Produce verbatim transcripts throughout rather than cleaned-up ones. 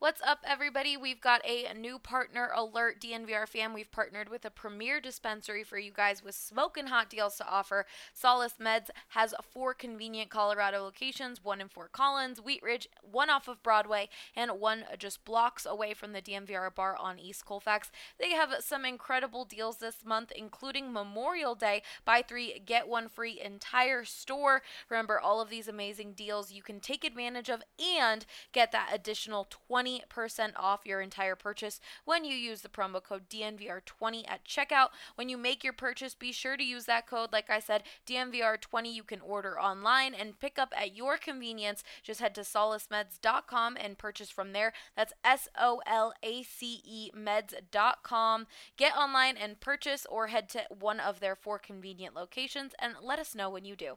What's up, everybody? We've got a new partner alert, D N V R fam. We've partnered with a premier dispensary for you guys with smoking hot deals to offer. Solace Meds has four convenient Colorado locations, one in Fort Collins, Wheat Ridge, one off of Broadway, and one just blocks away from the D N V R bar on East Colfax. They have some incredible deals this month, including Memorial Day. Buy three, get one free entire store. Remember, all of these amazing deals you can take advantage of and get that additional twenty percent off your entire purchase when you use the promo code D N V R twenty at checkout. When you make your purchase, be sure to use that code. Like I said, D N V R twenty. You can order online and pick up at your convenience. Just head to solace meds dot com and purchase from there. That's S O L A C E meds dot com. Get online and purchase, or head to one of their four convenient locations and let us know when you do.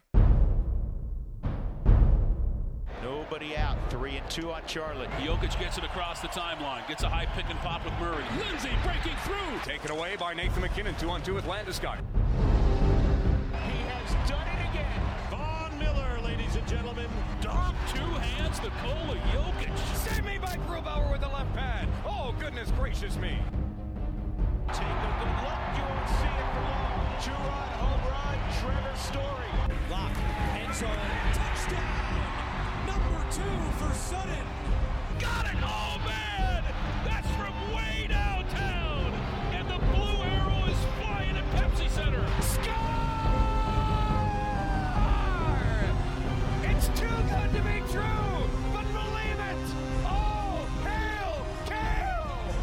Nobody out. Three and two on Charlotte. Jokic gets it across the timeline. Gets a high pick and pop with Murray. Lindsay breaking through. Taken away by Nathan McKinnon. Two on two with Landeskog. He has done it again. Von Miller, ladies and gentlemen. Dom, two hands, the goal of Jokic. Save me by Grubauer with the left pad. Oh, goodness gracious me. Take a good look. You won't see it for long. Two-run home run. Trevor Story. Lock. End zone. Touchdown. Number two for Sutton. Got it! Oh, man! That's from way downtown! And the blue arrow is flying at Pepsi Center. Score! It's too good to be true, but believe it! Oh, hail, Kale!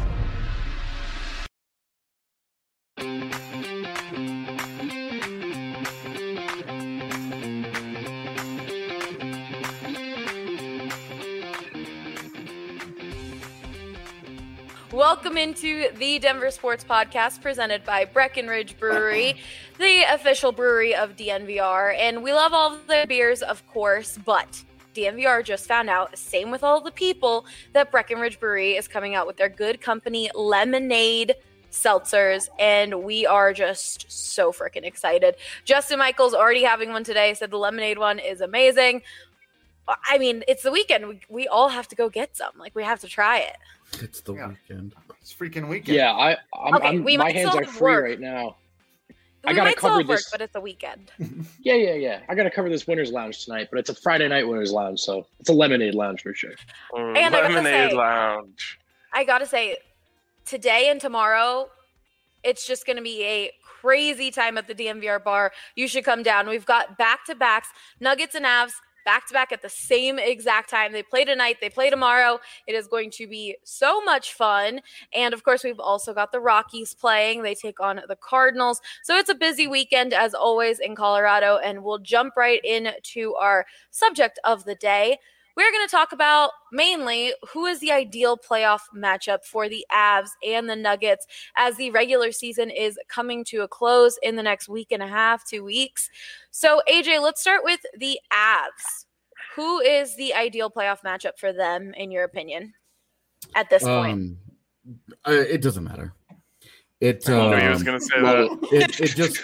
Welcome into the Denver Sports Podcast presented by Breckenridge Brewery, the official brewery of D N V R. And we love all of the beers, of course, but D N V R just found out, same with all the people, that Breckenridge Brewery is coming out with their Good Company lemonade seltzers, and we are just so freaking excited. Justin Michaels already having one today, said the lemonade one is amazing. I mean, it's the weekend. We, we all have to go get some. Like, we have to try it. It's the yeah. weekend. It's freaking weekend. Yeah, I, I'm, Okay, I'm we my might hands still are have free work. right now. We I gotta might still cover have work, this. but it's a weekend. Yeah, yeah, yeah. I gotta cover this Winners Lounge tonight, but it's a Friday night Winners Lounge, so it's a lemonade lounge for sure. Mm, And I gotta lemonade say- lounge. I gotta say, today and tomorrow, it's just gonna be a crazy time at the D N V R bar. You should come down. We've got back-to-backs, Nuggets and Avs, back-to-back at the same exact time. They play tonight. They play tomorrow. It is going to be so much fun. And, of course, we've also got the Rockies playing. They take on the Cardinals. So it's a busy weekend, as always, in Colorado. And we'll jump right into our subject of the day. We're going to talk about mainly who is the ideal playoff matchup for the Avs and the Nuggets as the regular season is coming to a close in the next week and a half, two weeks. So, A J, let's start with the Avs. Who is the ideal playoff matchup for them, in your opinion, at this point? Um, uh, it doesn't matter. It. I knew he was um, going to say well, that. it, it just.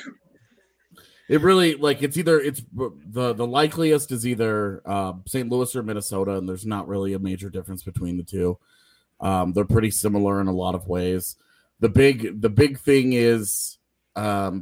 It really, like, it's either, it's the, the likeliest is either uh, Saint Louis or Minnesota, and there's not really a major difference between the two. Um, they're pretty similar in a lot of ways. The big, the big thing is um,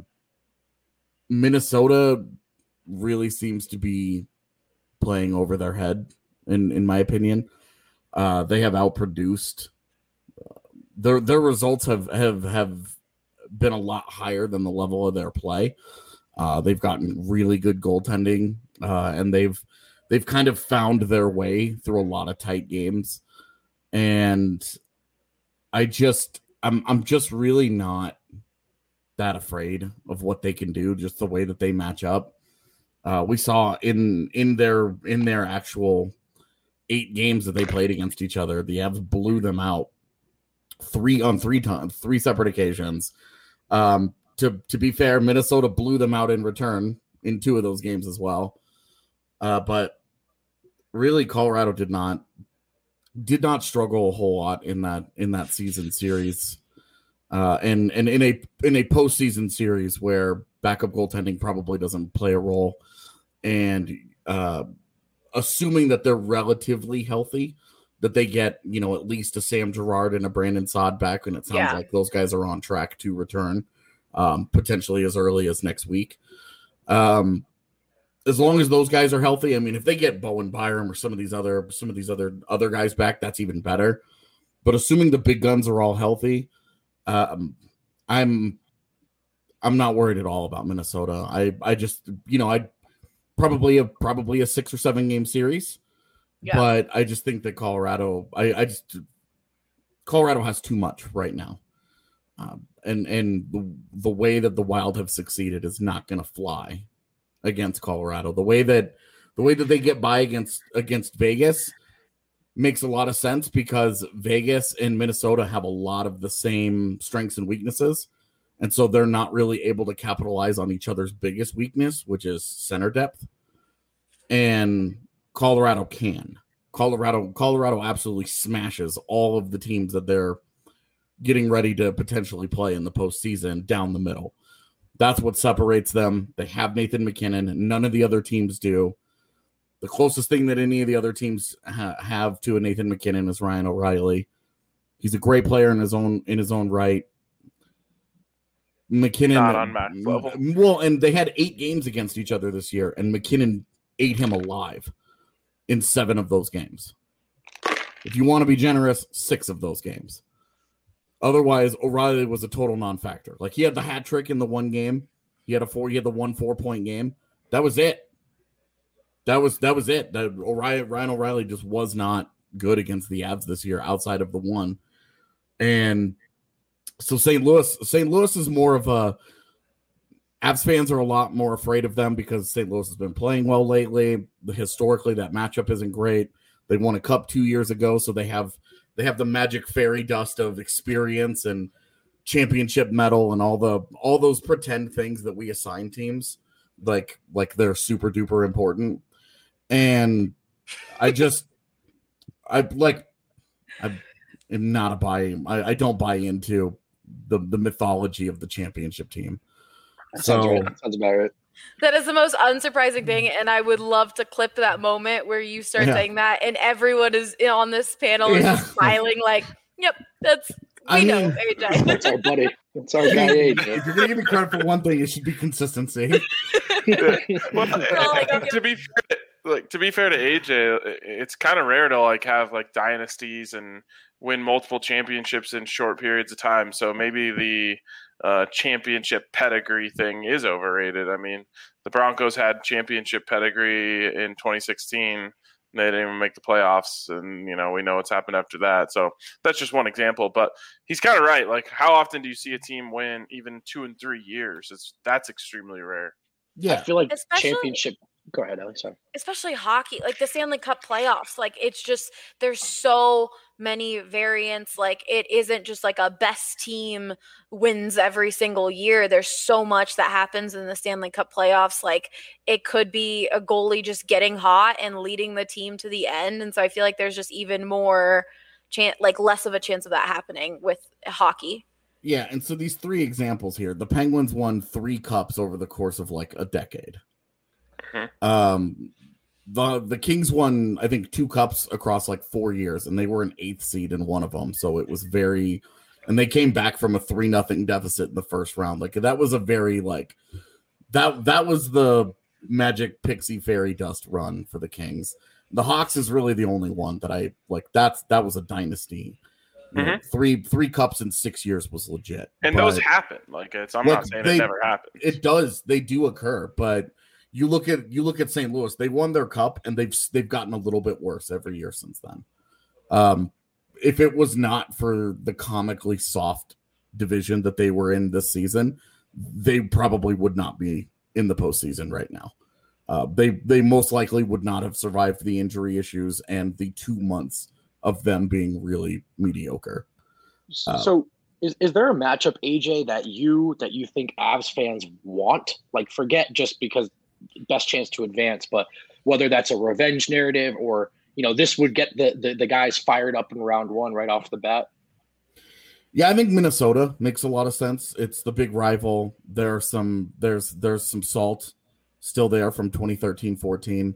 Minnesota really seems to be playing over their head, in, in my opinion. Uh, they have outproduced. Their, their results have, have, have been a lot higher than the level of their play. Uh, they've gotten really good goaltending, uh, and they've they've kind of found their way through a lot of tight games. And I just I'm I'm just really not that afraid of what they can do, just the way that they match up. Uh, we saw in in their in their actual eight games that they played against each other, the Avs blew them out three on three times, three separate occasions. Um, To to be fair, Minnesota blew them out in return in two of those games as well. Uh, but really, Colorado did not did not struggle a whole lot in that in that season series, uh, and and in a in a postseason series where backup goaltending probably doesn't play a role, and uh, assuming that they're relatively healthy, that they get, you know, at least a Sam Girard and a Brandon Saad back, and it sounds Yeah. like those guys are on track to return, um, potentially as early as next week. Um, as long as those guys are healthy, I mean, if they get Bowen Byram or some of these other some of these other other guys back, that's even better. But assuming the big guns are all healthy, um, I'm I'm not worried at all about Minnesota. I I just you know I probably a probably a six or seven game series. Yeah. But I just think that Colorado, I, I just Colorado has too much right now, um, and and the, the way that the Wild have succeeded is not going to fly against Colorado. The way that the way that they get by against against Vegas makes a lot of sense because Vegas and Minnesota have a lot of the same strengths and weaknesses, and so they're not really able to capitalize on each other's biggest weakness, which is center depth, and Colorado can. Colorado Colorado absolutely smashes all of the teams that they're getting ready to potentially play in the postseason down the middle. That's what separates them. They have Nathan McKinnon. None of the other teams do. The closest thing that any of the other teams ha- have to a Nathan McKinnon is Ryan O'Reilly. He's a great player in his own in his own right. McKinnon, Not on Matt's level. Well, and they had eight games against each other this year, and McKinnon ate him alive in seven of those games. If you want to be generous, six of those games. Otherwise, O'Reilly was a total non-factor. Like, he had the hat trick in the one game. He had a four. He had the one four-point game. That was it. That was that was it. That O'Reilly, Ryan O'Reilly just was not good against the Avs this year, outside of the one. And so Saint Louis, Saint Louis is more of a. Avs fans are a lot more afraid of them because Saint Louis has been playing well lately. Historically, that matchup isn't great. They won a cup two years ago, so they have they have the magic fairy dust of experience and championship medal and all the all those pretend things that we assign teams, like like they're super duper important. And I just I like I am not a buy. I, I don't buy into the the mythology of the championship team. That So sounds right. That sounds about right. That is the most unsurprising thing, and I would love to clip that moment where you start Yeah. saying that, and everyone is on this panel is Yeah. just smiling like, "Yep, that's we I know." mean- A J. That's our buddy. That's our guy, A J. if you're gonna give me credit for one thing, it should be consistency. Well, Well, like, okay. to be fair, like to be fair to A J, it's kind of rare to like have like dynasties and win multiple championships in short periods of time. So maybe the uh, championship pedigree thing is overrated. I mean, the Broncos had championship pedigree in twenty sixteen. They didn't even make the playoffs, and you know we know what's happened after that. So that's just one example. But he's kind of right. Like, how often do you see a team win even two and three years? It's that's extremely rare. I Yeah, feel like Especially- championship. Go ahead, Ellie. Sorry. Especially hockey, like the Stanley Cup playoffs. Like, it's just there's so many variants. Like, it isn't just like a best team wins every single year. There's so much that happens in the Stanley Cup playoffs. Like, it could be a goalie just getting hot and leading the team to the end. And so I feel like there's just even more chance, like less of a chance of that happening with hockey. yeah. And so these three examples here, the Penguins won three cups over the course of like a decade. Um, the the Kings won, I think, two cups across like four years, and they were an eighth seed in one of them. So it was very, and they came back from a three nothing deficit in the first round. Like, that was a very like that that was the magic pixie fairy dust run for the Kings. The Hawks is really the only one that I like. That's that was a dynasty. You know, three three cups in six years was legit, And but those happen. Like, it's I'm Look, not saying they- it never happens. it does. They do occur, but you look at you look at Saint Louis. They won their cup, and they've they've gotten a little bit worse every year since then. Um, if it was not for the comically soft division that they were in this season, they probably would not be in the postseason right now. Uh, they they most likely would not have survived the injury issues and the two months of them being really mediocre. Uh, So, is, is there a matchup, A J, that you that you think Avs fans want? Like, forget just because best chance to advance, but whether that's a revenge narrative or, you know, this would get the the, the guys fired up in round one right off the bat. Yeah, I think Minnesota makes a lot of sense. It's the big rival. There are some there's there's some salt still there from twenty thirteen fourteen.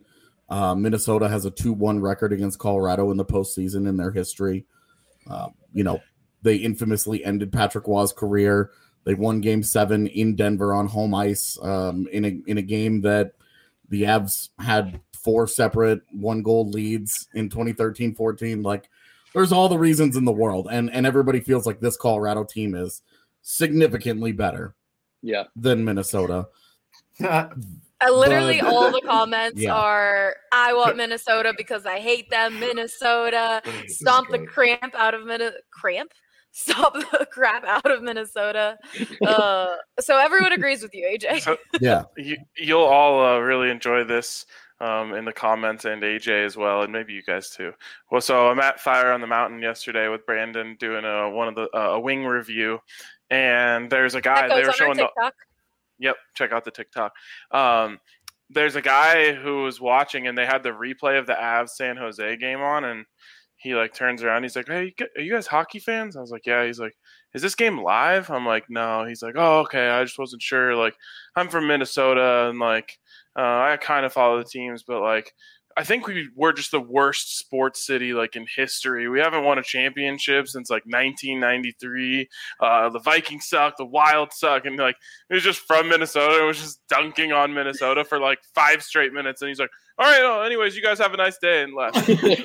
Uh, Minnesota has a two one record against Colorado in the postseason in their history. Uh, you know, they infamously ended Patrick Waugh's career. They won Game Seven in Denver on home ice um, in a in a game that the Avs had four separate one goal leads in twenty thirteen fourteen. Like, there's all the reasons in the world, and and everybody feels like this Colorado team is significantly better, yeah, than Minnesota. Uh, literally, But- all the comments Yeah. are, "I want Minnesota because I hate them." Minnesota, This is stomp the great. cramp out of Minnesota. Cramp? Stop the crap out of Minnesota. Uh, so everyone agrees with you, A J. So Yeah, you, you'll all uh, really enjoy this um, in the comments, and A J as well, and maybe you guys too. Well, so I'm at Fire on the Mountain yesterday with Brandon doing a one of the uh, a wing review, and there's a guy That they goes were on our showing the. TikTok. Yep, check out the TikTok. Um, there's a guy who was watching, and they had the replay of the Avs San Jose game on, and he like turns around. He's like, "Hey, you gu- are you guys hockey fans?" I was like, "Yeah." He's like, "Is this game live?" I'm like, "No." He's like, "Oh, okay. I just wasn't sure. Like, I'm from Minnesota, and like, uh, I kind of follow the teams, but like, I think we we're just the worst sports city like in history. We haven't won a championship since like nineteen ninety-three. Uh, the Vikings suck. The Wild suck." And like, it was just from Minnesota. It was just dunking on Minnesota for like five straight minutes. And he's like, "All right, well, anyways, you guys have a nice day," and left.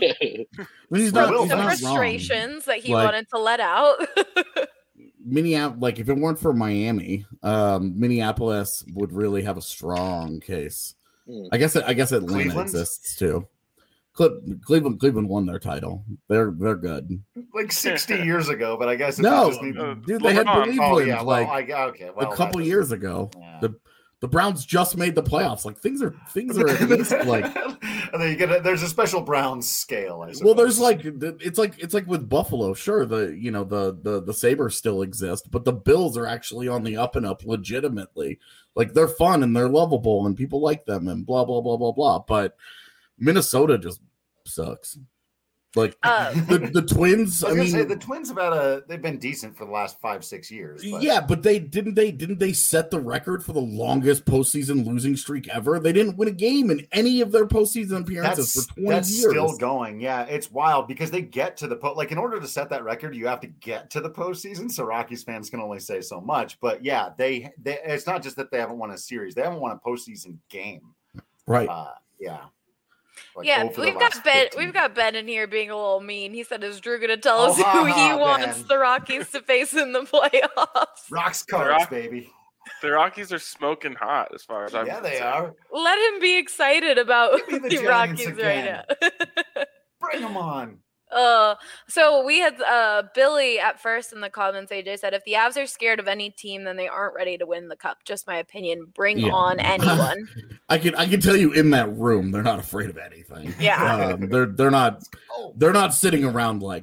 I mean, he's not, Will he's Some not wrong. frustrations that he Like- wanted to let out. Minneapolis, like if it weren't for Miami, um, Minneapolis would really have a strong case. Mm. I guess I guess Atlanta Cleveland? exists too. Cle- Cleveland Cleveland won their title. They're they're good. Like sixty years ago, but I guess if No, you just need uh, dude, they had LeBron. Cleveland Oh yeah, well, like I, okay, well, a couple that years ago. Yeah. The the Browns just made the playoffs. Like things are things are at least like. and then you get a, there's a special Browns scale. I suppose. Well, there's like it's like it's like with Buffalo. Sure, the you know the the the Sabres still exist, but the Bills are actually on the up and up legitimately. Like they're fun and they're lovable and people like them and blah blah blah blah blah. But Minnesota just sucks. Like Uh, the the Twins. I I, was gonna mean, say the Twins have had a they've been decent for the last five six years. But yeah, but they didn't they didn't they set the record for the longest postseason losing streak ever? They didn't win a game in any of their postseason appearances that's for twenty that's years. still going. Yeah, it's wild because they get to the po- like in order to set that record, you have to get to the postseason. So Rockies fans can only say so much. But yeah, they they it's not just that they haven't won a series; they haven't won a postseason game. Right. Uh, yeah. Like, yeah, oh, for the we've last got Ben. fifteen. We've got Ben in here being a little mean. He said, "Is Drew going to tell Oh, us who ha, he ha, wants Ben. the Rockies to face in the playoffs?" Rocks The cards, Rock- baby. The Rockies are smoking hot, as far as I'm Yeah, they concerned. are. Let him be excited about Give me the, the Giants Rockies right again. now. Bring them on. Uh, so we had uh Billy at first in the comments. A J said, "If the Avs are scared of any team, then they aren't ready to win the cup." Just my opinion. Bring Yeah. on anyone. I can I can tell you in that room, they're not afraid of anything. Yeah. Um, they're they're not Oh, they're not sitting around like,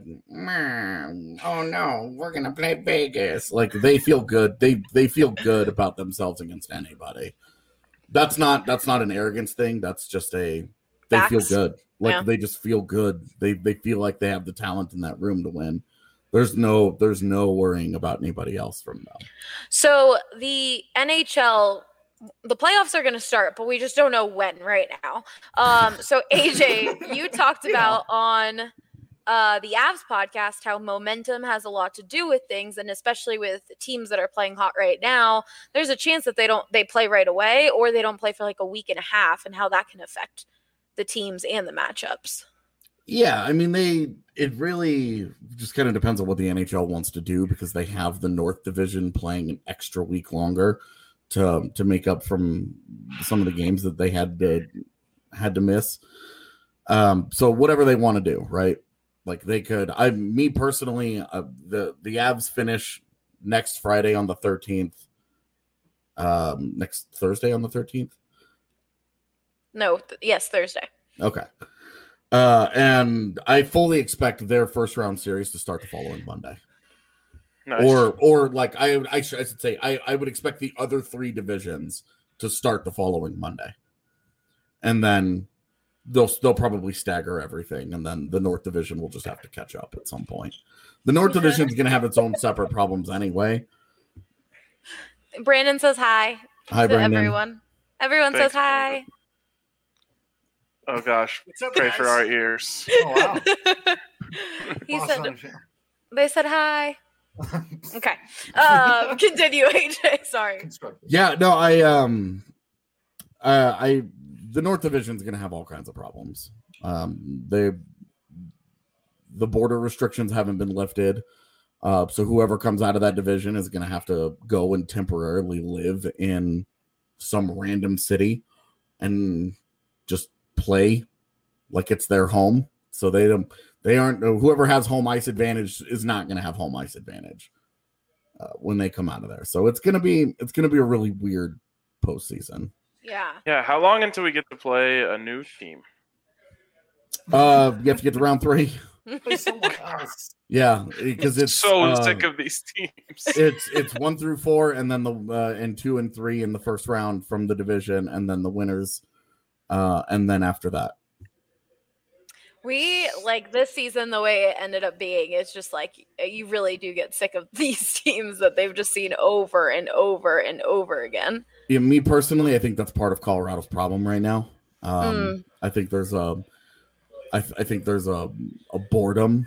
"Man, oh no, we're gonna play Vegas." Like they feel good. They they feel good about themselves against anybody. That's not that's not an arrogance thing. That's just a they feel Facts. good. Like Yeah. they just feel good. They they feel like they have the talent in that room to win. There's no there's no worrying about anybody else from them. So the N H L, the playoffs are going to start, but we just don't know when right now. Um, so A J, you talked about on uh, the Avs podcast how momentum has a lot to do with things, and especially with teams that are playing hot right now, there's a chance that they don't they play right away or they don't play for like a week and a half, and how that can affect the teams and the matchups. Yeah, I mean they it really just kind of depends on what the N H L wants to do because they have the North Division playing an extra week longer to to make up from some of the games that they had to had to miss. Um so whatever they want to do, right? Like they could I me personally uh, the the Avs finish next Friday on the thirteenth. Um next Thursday on the thirteenth. No, th- yes, Thursday. Okay. Uh, and I fully expect their first round series to start the following Monday. Nice. Or, or like I, I, should, I should say, I, I would expect the other three divisions to start the following Monday, and then they'll they'll probably stagger everything, and then the North Division will just have to catch up at some point. The North Division is going to have its own separate problems anyway. Brandon says hi. Hi, to Brandon. everyone. Everyone Thanks, says hi. Oh gosh, pray for our ears. Oh wow. He Boss said on the show. they said hi. Okay. Um, continue, A J. Sorry. Constructive. Yeah, no, I um, uh, I the North Division is going to have all kinds of problems. Um, they the border restrictions haven't been lifted, uh, so whoever comes out of that division is going to have to go and temporarily live in some random city and just play like it's their home. So they don't. They aren't. Whoever has home ice advantage is not going to have home ice advantage uh, when they come out of there. So it's gonna be it's gonna be a really weird postseason. Yeah. Yeah, how long until we get to play a new team? Uh, you have to get to round three. Play someone else. Yeah, because it's so uh, sick of these teams. it's it's one through four, and then the uh, and two and three in the first round from the division, and then the winners, uh, and then after that. We like this season, the way it ended up being, it's just like you really do get sick of these teams that they've just seen over and over and over again. Yeah, me personally, I think that's part of Colorado's problem right now. Um, Mm. I think there's a, I, th- I think there's a, a boredom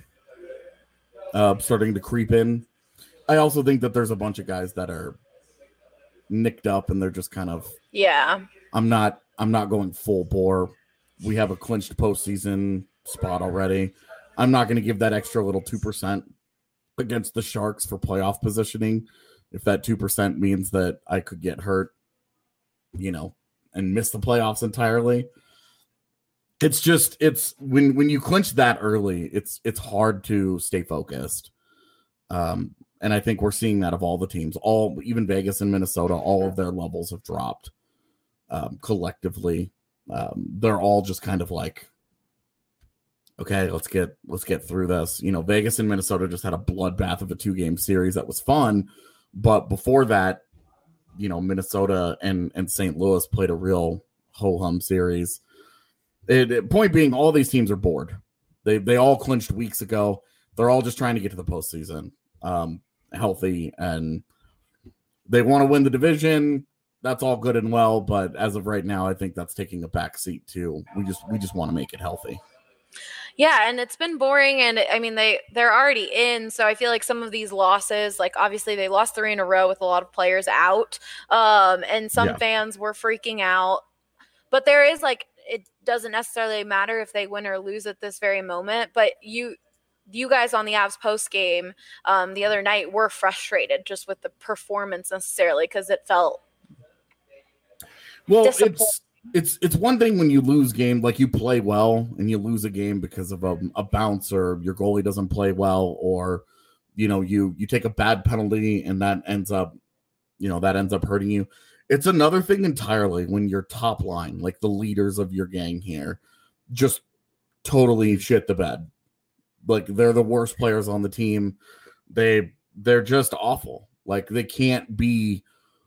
uh, starting to creep in. I also think that there's a bunch of guys that are nicked up and they're just kind of, Yeah. I'm not, I'm not going full bore. We have a clinched postseason spot already. I'm not going to give that extra little two percent against the Sharks for playoff positioning. If that two percent means that I could get hurt, you know, and miss the playoffs entirely. It's just, it's when, when you clinch that early, it's, it's hard to stay focused. Um, and I think we're seeing that of all the teams, all, even Vegas and Minnesota, all of their levels have dropped um, collectively. Um, they're all just kind of like, okay, let's get let's get through this. You know, Vegas and Minnesota just had a bloodbath of a two-game series that was fun, but before that, you know, Minnesota and and Saint Louis played a real ho-hum series. It, it, point being, all these teams are bored. They they all clinched weeks ago. They're all just trying to get to the postseason, um, healthy, and they want to win the division. That's all good and well, but as of right now, I think that's taking a back seat too. We just we just want to make it healthy. Yeah, and it's been boring, and I mean they they're already in, so I feel like some of these losses, like obviously they lost three in a row with a lot of players out, um, and some Yeah. fans were freaking out. But there is like it doesn't necessarily matter if they win or lose at this very moment. But you you guys on the Avs post game um, the other night were frustrated just with the performance necessarily because it felt Well, disappointing. it's it's it's one thing when you lose game, like you play well and you lose a game because of a, a bounce or your goalie doesn't play well, or you know you you take a bad penalty and that ends up you know that ends up hurting you. It's another thing entirely when your top line, like the leaders of your gang here, just totally shit the bed. Like they're the worst players on the team. They they're just awful. Like they can't be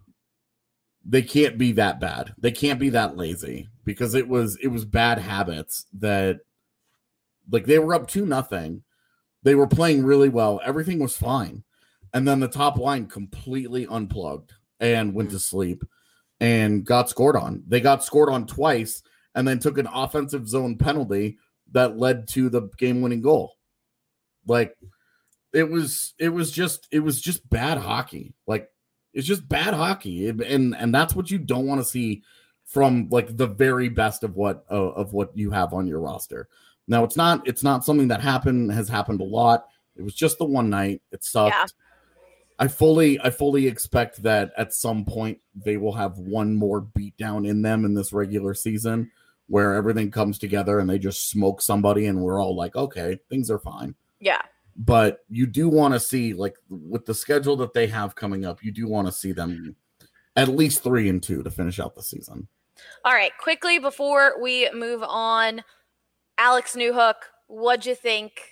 they can't be that bad. They can't be that lazy because it was it was bad habits that like they were up two nothing. They were playing really well. Everything was fine. And then the top line completely unplugged and went to sleep and got scored on. They got scored on twice and then took an offensive zone penalty that led to the game-winning goal. Like it was it was just it was just bad hockey. Like it's just bad hockey. And and that's what you don't want to see from like the very best of what uh, of what you have on your roster. Now it's not it's not something that happened has happened a lot. It was just the one night. It sucked. Yeah. I fully I fully expect that at some point they will have one more beatdown in them in this regular season where everything comes together and they just smoke somebody and we're all like, okay, things are fine. Yeah. But you do want to see, like with the schedule that they have coming up, you do want to see them at least three and two to finish out the season. All right, quickly before we move on, Alex Newhook, what'd you think?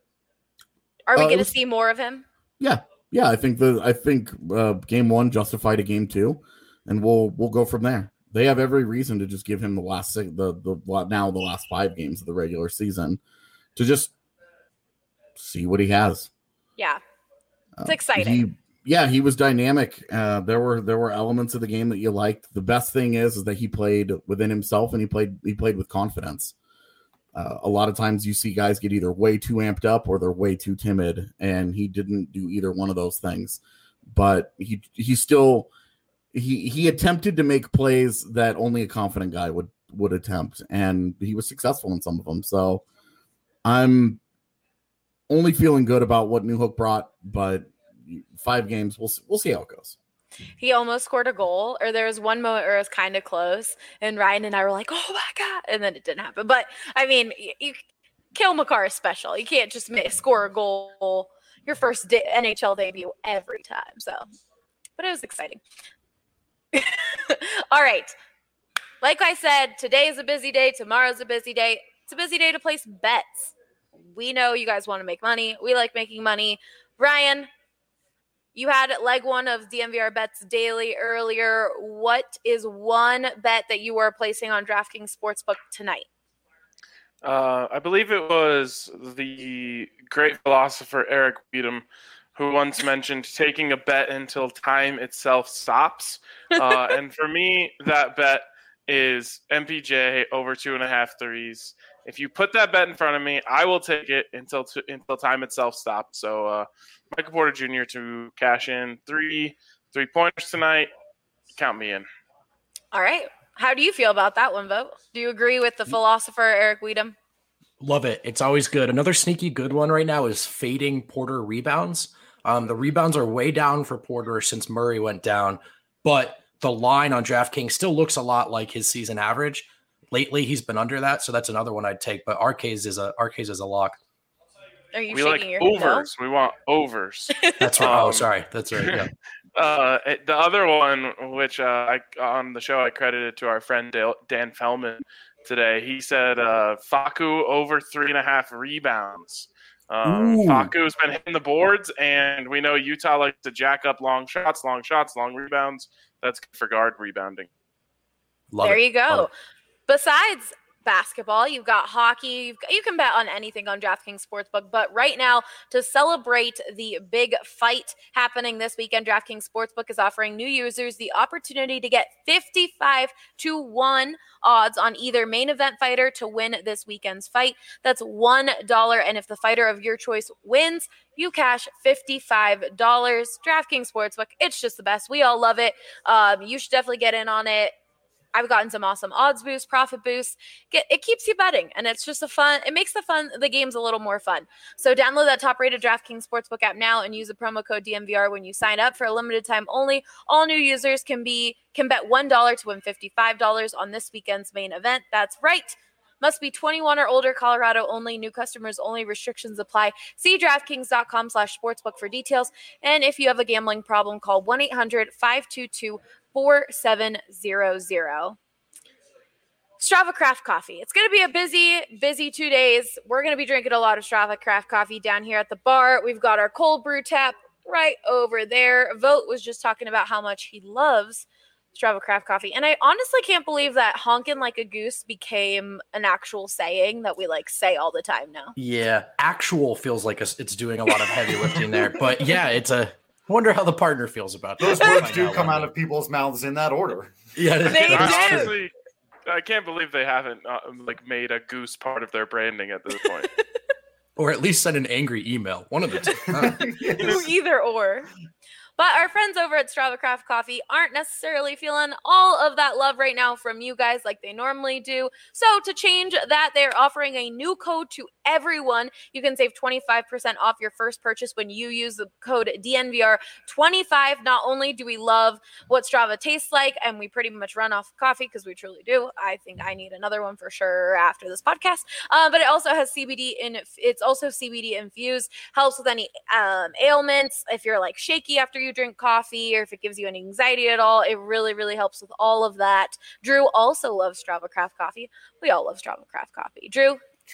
Are we Uh, it going to was- see more of him? Yeah, yeah. I think the I think uh, game one justified a game two, and we'll we'll go from there. They have every reason to just give him the last six, the the now the last five games of the regular season to just see what he has. Yeah, it's Uh, exciting. He, yeah, he was dynamic. Uh, there were there were elements of the game that you liked. The best thing is is that he played within himself and he played he played with confidence. Uh, a lot of times you see guys get either way too amped up or they're way too timid, and he didn't do either one of those things. But he he still he he attempted to make plays that only a confident guy would would attempt, and he was successful in some of them. So I'm only feeling good about what Newhook brought, but five games, we'll we'll see how it goes. He almost scored a goal, or there was one moment where it was kind of close, and Ryan and I were like, "Oh my god!" and then it didn't happen. But I mean, you, you Cale Makar is special. You can't just make, score a goal your first de- N H L debut every time. So, but it was exciting. All right, like I said, today is a busy day. Tomorrow's a busy day. It's a busy day to place bets. We know you guys want to make money. We like making money. Ryan, you had leg one of D N V R Bets Daily earlier. What is one bet that you are placing on DraftKings Sportsbook tonight? Uh, I believe it was the great philosopher Eric Weedham who once mentioned taking a bet until time itself stops. Uh, and for me, that bet is M P J over two and a half threes. If you put that bet in front of me, I will take it until t- until time itself stops. So uh, Michael Porter Junior to cash in three three pointers tonight. Count me in. All right. How do you feel about that one, Vote? Do you agree with the philosopher Eric Weedham? Love it. It's always good. Another sneaky good one right now is fading Porter rebounds. Um, the rebounds are way down for Porter since Murray went down, but the line on DraftKings still looks a lot like his season average. Lately, he's been under that, so that's another one I'd take. But Arcades is a Arcades is a lock. Are you we shaking like your overs. We want overs. That's right. Um, oh, sorry. That's right. Yeah. Uh, the other one, which uh, I on the show I credited to our friend Dale, Dan Fellman today. He said uh, Facu over three and a half rebounds. Um, Facu's been hitting the boards, and we know Utah likes to jack up long shots, long shots, long rebounds. That's good for guard rebounding. Love there it. you go. Besides basketball, you've got hockey. You've got, you can bet on anything on DraftKings Sportsbook. But right now, to celebrate the big fight happening this weekend, DraftKings Sportsbook is offering new users the opportunity to get fifty-five to one odds on either main event fighter to win this weekend's fight. That's one dollar. And if the fighter of your choice wins, you cash fifty-five dollars. DraftKings Sportsbook, it's just the best. We all love it. Um, you should definitely get in on it. I've gotten some awesome odds boosts, profit boosts. Get, it keeps you betting, and it's just a fun. It makes the fun the games a little more fun. So download that top-rated DraftKings Sportsbook app now and use the promo code D M V R when you sign up for a limited time only. All new users can be can bet one dollar to win fifty-five dollars on this weekend's main event. That's right. Must be twenty-one or older, Colorado only, new customers only, restrictions apply. See DraftKings.com slash sportsbook for details. And if you have a gambling problem, call one eight hundred five two two four seven zero zero. Strava Craft Coffee. It's going to be a busy, busy two days. We're going to be drinking a lot of Strava Craft Coffee down here at the bar. We've got our cold brew tap right over there. Vote was just talking about how much he loves Strava Craft Coffee. And I honestly can't believe that honkin' like a goose became an actual saying that we like say all the time now. Yeah. Actual feels like a, it's doing a lot of heavy lifting there. But yeah, it's a I wonder how the partner feels about those that. words do come out of people's mouths in that order. Yeah, they do. Honestly, I can't believe they haven't uh, like made a goose part of their branding at this point. Or at least send an angry email. One of the two. Huh? Yes. Either or. But our friends over at Strava Craft Coffee aren't necessarily feeling all of that love right now from you guys like they normally do. So to change that, they're offering a new code to everyone. You can save twenty-five percent off your first purchase when you use the code D N V R twenty-five. Not only do we love what Strava tastes like, and we pretty much run off coffee because we truly do. I think I need another one for sure after this podcast. Uh, but it also has C B D in. It's also C B D infused. Helps with any um, ailments. If you're like shaky after you drink coffee, or if it gives you any anxiety at all, it really, really helps with all of that. Drew also loves Strava Craft Coffee. We all love Strava Craft Coffee. Drew? True.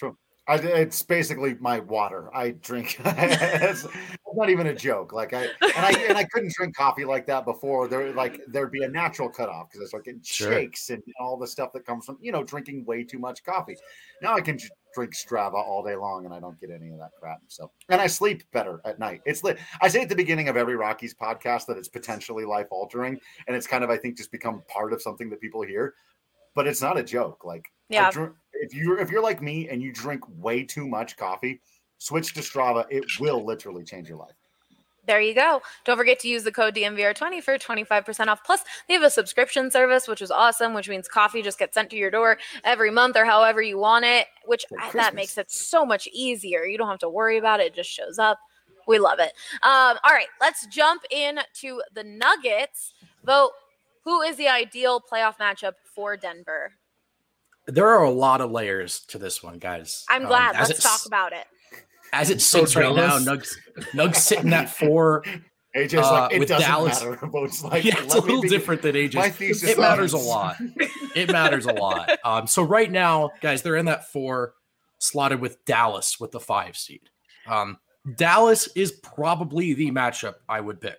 I, it's basically my water. I drink. It's not even a joke. Like I and I and I couldn't drink coffee like that before. There like there'd be a natural cutoff because it's like it Sure. shakes and all the stuff that comes from you know drinking way too much coffee. Now I can j- drink Strava all day long and I don't get any of that crap. So and I sleep better at night. It's lit. I say at the beginning of every Rockies podcast that it's potentially life altering, and it's kind of I think just become part of something that people hear. But it's not a joke. Like Yeah. I drink, if you're if you're like me and you drink way too much coffee, switch to Strava. It will literally change your life. There you go. Don't forget to use the code D M V R twenty for twenty-five percent off. Plus, they have a subscription service, which is awesome, which means coffee just gets sent to your door every month or however you want it, which For I- that Christmas. makes it so much easier. You don't have to worry about it. It just shows up. We love it. Um, all right, let's jump in to the Nuggets. Vote who is the ideal playoff matchup for Denver? There are a lot of layers to this one, guys. I'm Um, glad. as Let's it's- talk about it. As it So sits right now, jealous. Nugs, Nugs sitting at four. A J's Uh, like, it with doesn't Dallas- matter. Votes like, yeah, it's a let me little be- different than A J's. My thesis It matters a ends. lot. It matters a lot. Um, so right now, guys, they're in that four, slotted with Dallas with the five seed. Um, Dallas is probably the matchup I would pick.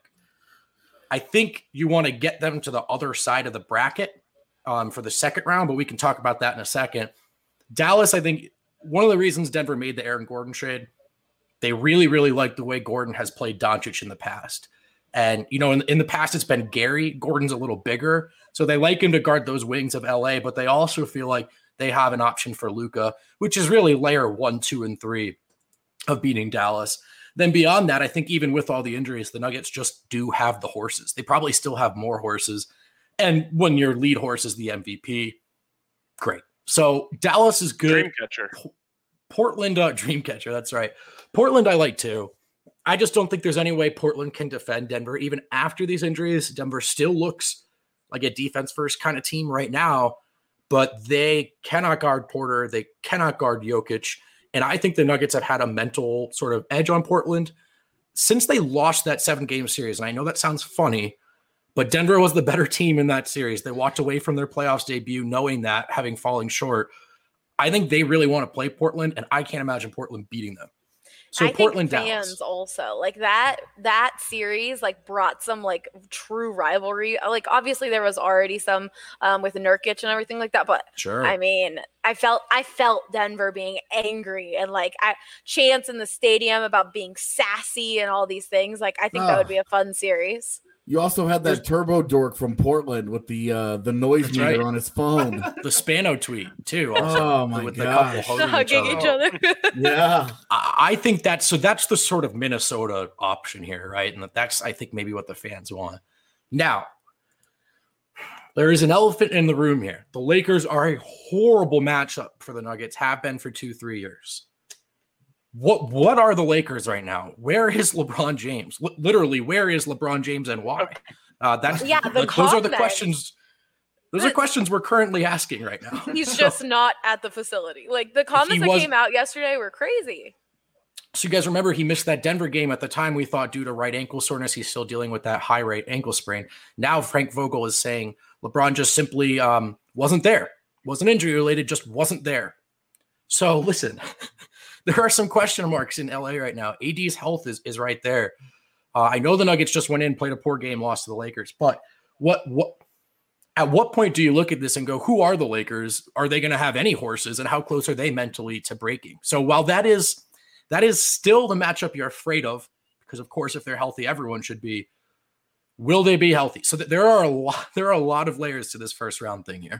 I think you want to get them to the other side of the bracket um, for the second round, but we can talk about that in a second. Dallas, I think one of the reasons Denver made the Aaron Gordon trade, they really, really like the way Gordon has played Doncic in the past. And, you know, in, in the past, it's been Gary. Gordon's a little bigger. So they like him to guard those wings of L A, but they also feel like they have an option for Luka, which is really layer one, two, and three of beating Dallas. Then beyond that, I think even with all the injuries, the Nuggets just do have the horses. They probably still have more horses. And when your lead horse is the M V P, great. So Dallas is good. Dreamcatcher. Portland, uh, Dreamcatcher, that's right. Portland, I like too. I just don't think there's any way Portland can defend Denver. Even after these injuries, Denver still looks like a defense-first kind of team right now, but they cannot guard Porter. They cannot guard Jokic. And I think the Nuggets have had a mental sort of edge on Portland since they lost that seven-game series. And I know that sounds funny, but Denver was the better team in that series. They walked away from their playoffs debut knowing that, having fallen short. I think they really want to play Portland, and I can't imagine Portland beating them. So I Portland, think fans Dallas. also like that that series like brought some like true rivalry. Like obviously there was already some um, with Nurkic and everything like that, but Sure. I mean, I felt I felt Denver being angry and like I, chants in the stadium about being sassy and all these things. Like I think that would Ah. be a fun series. You also had that turbo dork from Portland with the uh, the noise That's meter right. on his phone. The Spano tweet too. Also, Oh, my with gosh. the couple Hugging hugging each each other. other. Yeah. I I think that's so. That's the sort of Minnesota option here, right? And that's I think maybe what the fans want. Now, there is an elephant in the room here. The Lakers are a horrible matchup for the Nuggets. Have been for two, three years. What What are the Lakers right now? Where is LeBron James? L- literally, where is LeBron James and why? Uh, that's Yeah, the like, those are the comment. questions. Those are questions we're currently asking right now. He's So- just not at the facility. Like the comments that was- came out yesterday were crazy. So you guys remember he missed that Denver game at the time. We thought due to right ankle soreness, he's still dealing with that high rate ankle sprain. Now Frank Vogel is saying LeBron just simply um, wasn't there, wasn't injury related, just wasn't there. So listen, there are some question marks in L A right now. A D's health is is right there. Uh, I know the Nuggets just went in, played a poor game, lost to the Lakers, but what what at what point do you look at this and go, who are the Lakers? Are they going to have any horses, and how close are they mentally to breaking? So while that is that is still the matchup you're afraid of, because of course, if they're healthy, everyone should be. Will they be healthy? So that there are a lot, there are a lot of layers to this first round thing here.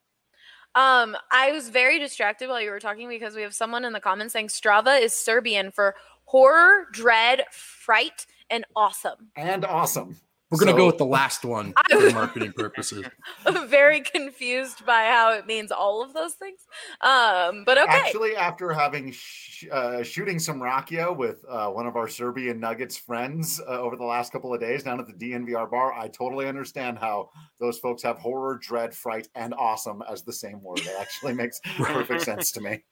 Um, I was very distracted while you were talking because we have someone in the comments saying Strava is Serbian for horror, dread, fright, and awesome. And awesome. We're gonna So- go with the last one I for was- marketing purposes. I'm very confused by how it means all of those things. Um, but okay. Actually, after having sh- uh, shooting some rakia with uh, one of our Serbian Nuggets friends uh, over the last couple of days down at the D N V R bar, I totally understand how those folks have horror, dread, fright, and awesome as the same word. It actually makes perfect sense to me.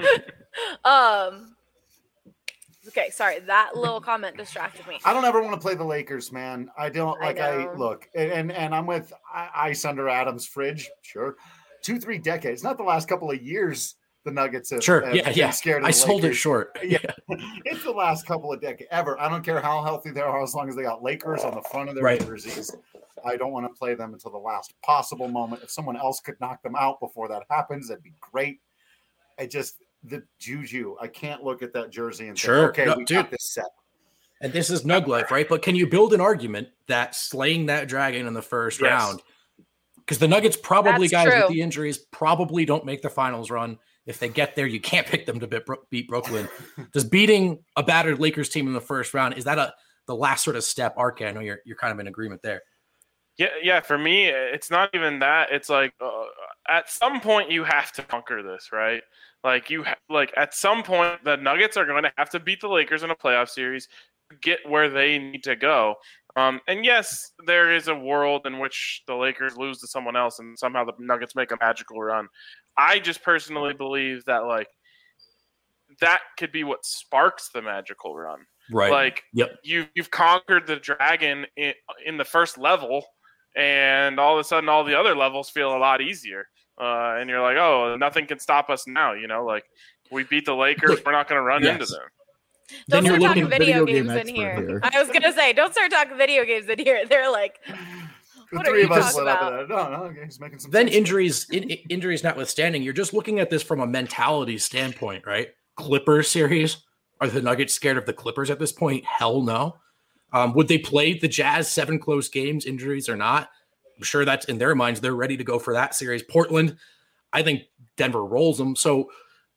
um, okay, sorry, that little comment distracted me. I don't ever want to play the Lakers, man. I don't I like. I, know. look, and, and and I'm with I- ice under Adam's fridge. Sure, two three decades, not the last couple of years. the Nuggets have, sure, have yeah, been yeah. scared of I the sold Lakers. it short. Yeah, it's the last couple of decades ever. I don't care how healthy they are, as long as they got Lakers on the front of their Right. jerseys. I don't want to play them until the last possible moment. If someone else could knock them out before that happens, that'd be great. I just the juju. I can't look at that jersey and Sure. think, okay, No, we dude. got this set. And this is Nug life, right? But can you build an argument that slaying that dragon in the first Yes. round, because the Nuggets probably, That's guys, true. with the injuries, probably don't make the finals run. If they get there, you can't pick them to beat, beat Brooklyn. Does beating a battered Lakers team in the first round, is that a the last sort of step? R K, I know you're you're kind of in agreement there. Yeah, yeah. For me, it's not even that. It's like uh, at some point you have to conquer this, right? Like you, ha- like at some point the Nuggets are going to have to beat the Lakers in a playoff series, to get where they need to go. Um, and yes, there is a world in which the Lakers lose to someone else, and somehow the Nuggets make a magical run. I just personally believe that like that could be what sparks the magical run. Right. Like Yep. you you've conquered the dragon in, in the first level, and all of a sudden all the other levels feel a lot easier. Uh, and you're like, oh, nothing can stop us now. You know, like we beat the Lakers, Look, we're not going to run yes. into them. Then Don't you're start talking looking video, video game games in expert here. here. I was gonna say, don't start talking video games in here. They're like, The what are three you of us talking lit up about? at that. No, no, okay, he's making some Then sense. injuries, in, in- injuries notwithstanding, you're just looking at this from a mentality standpoint, right? Clippers series. Are the Nuggets scared of the Clippers at this point? Hell no. Um, would they play the Jazz seven close games, injuries or not? I'm sure that's in their minds. They're ready to go for that series. Portland, I think Denver rolls them. So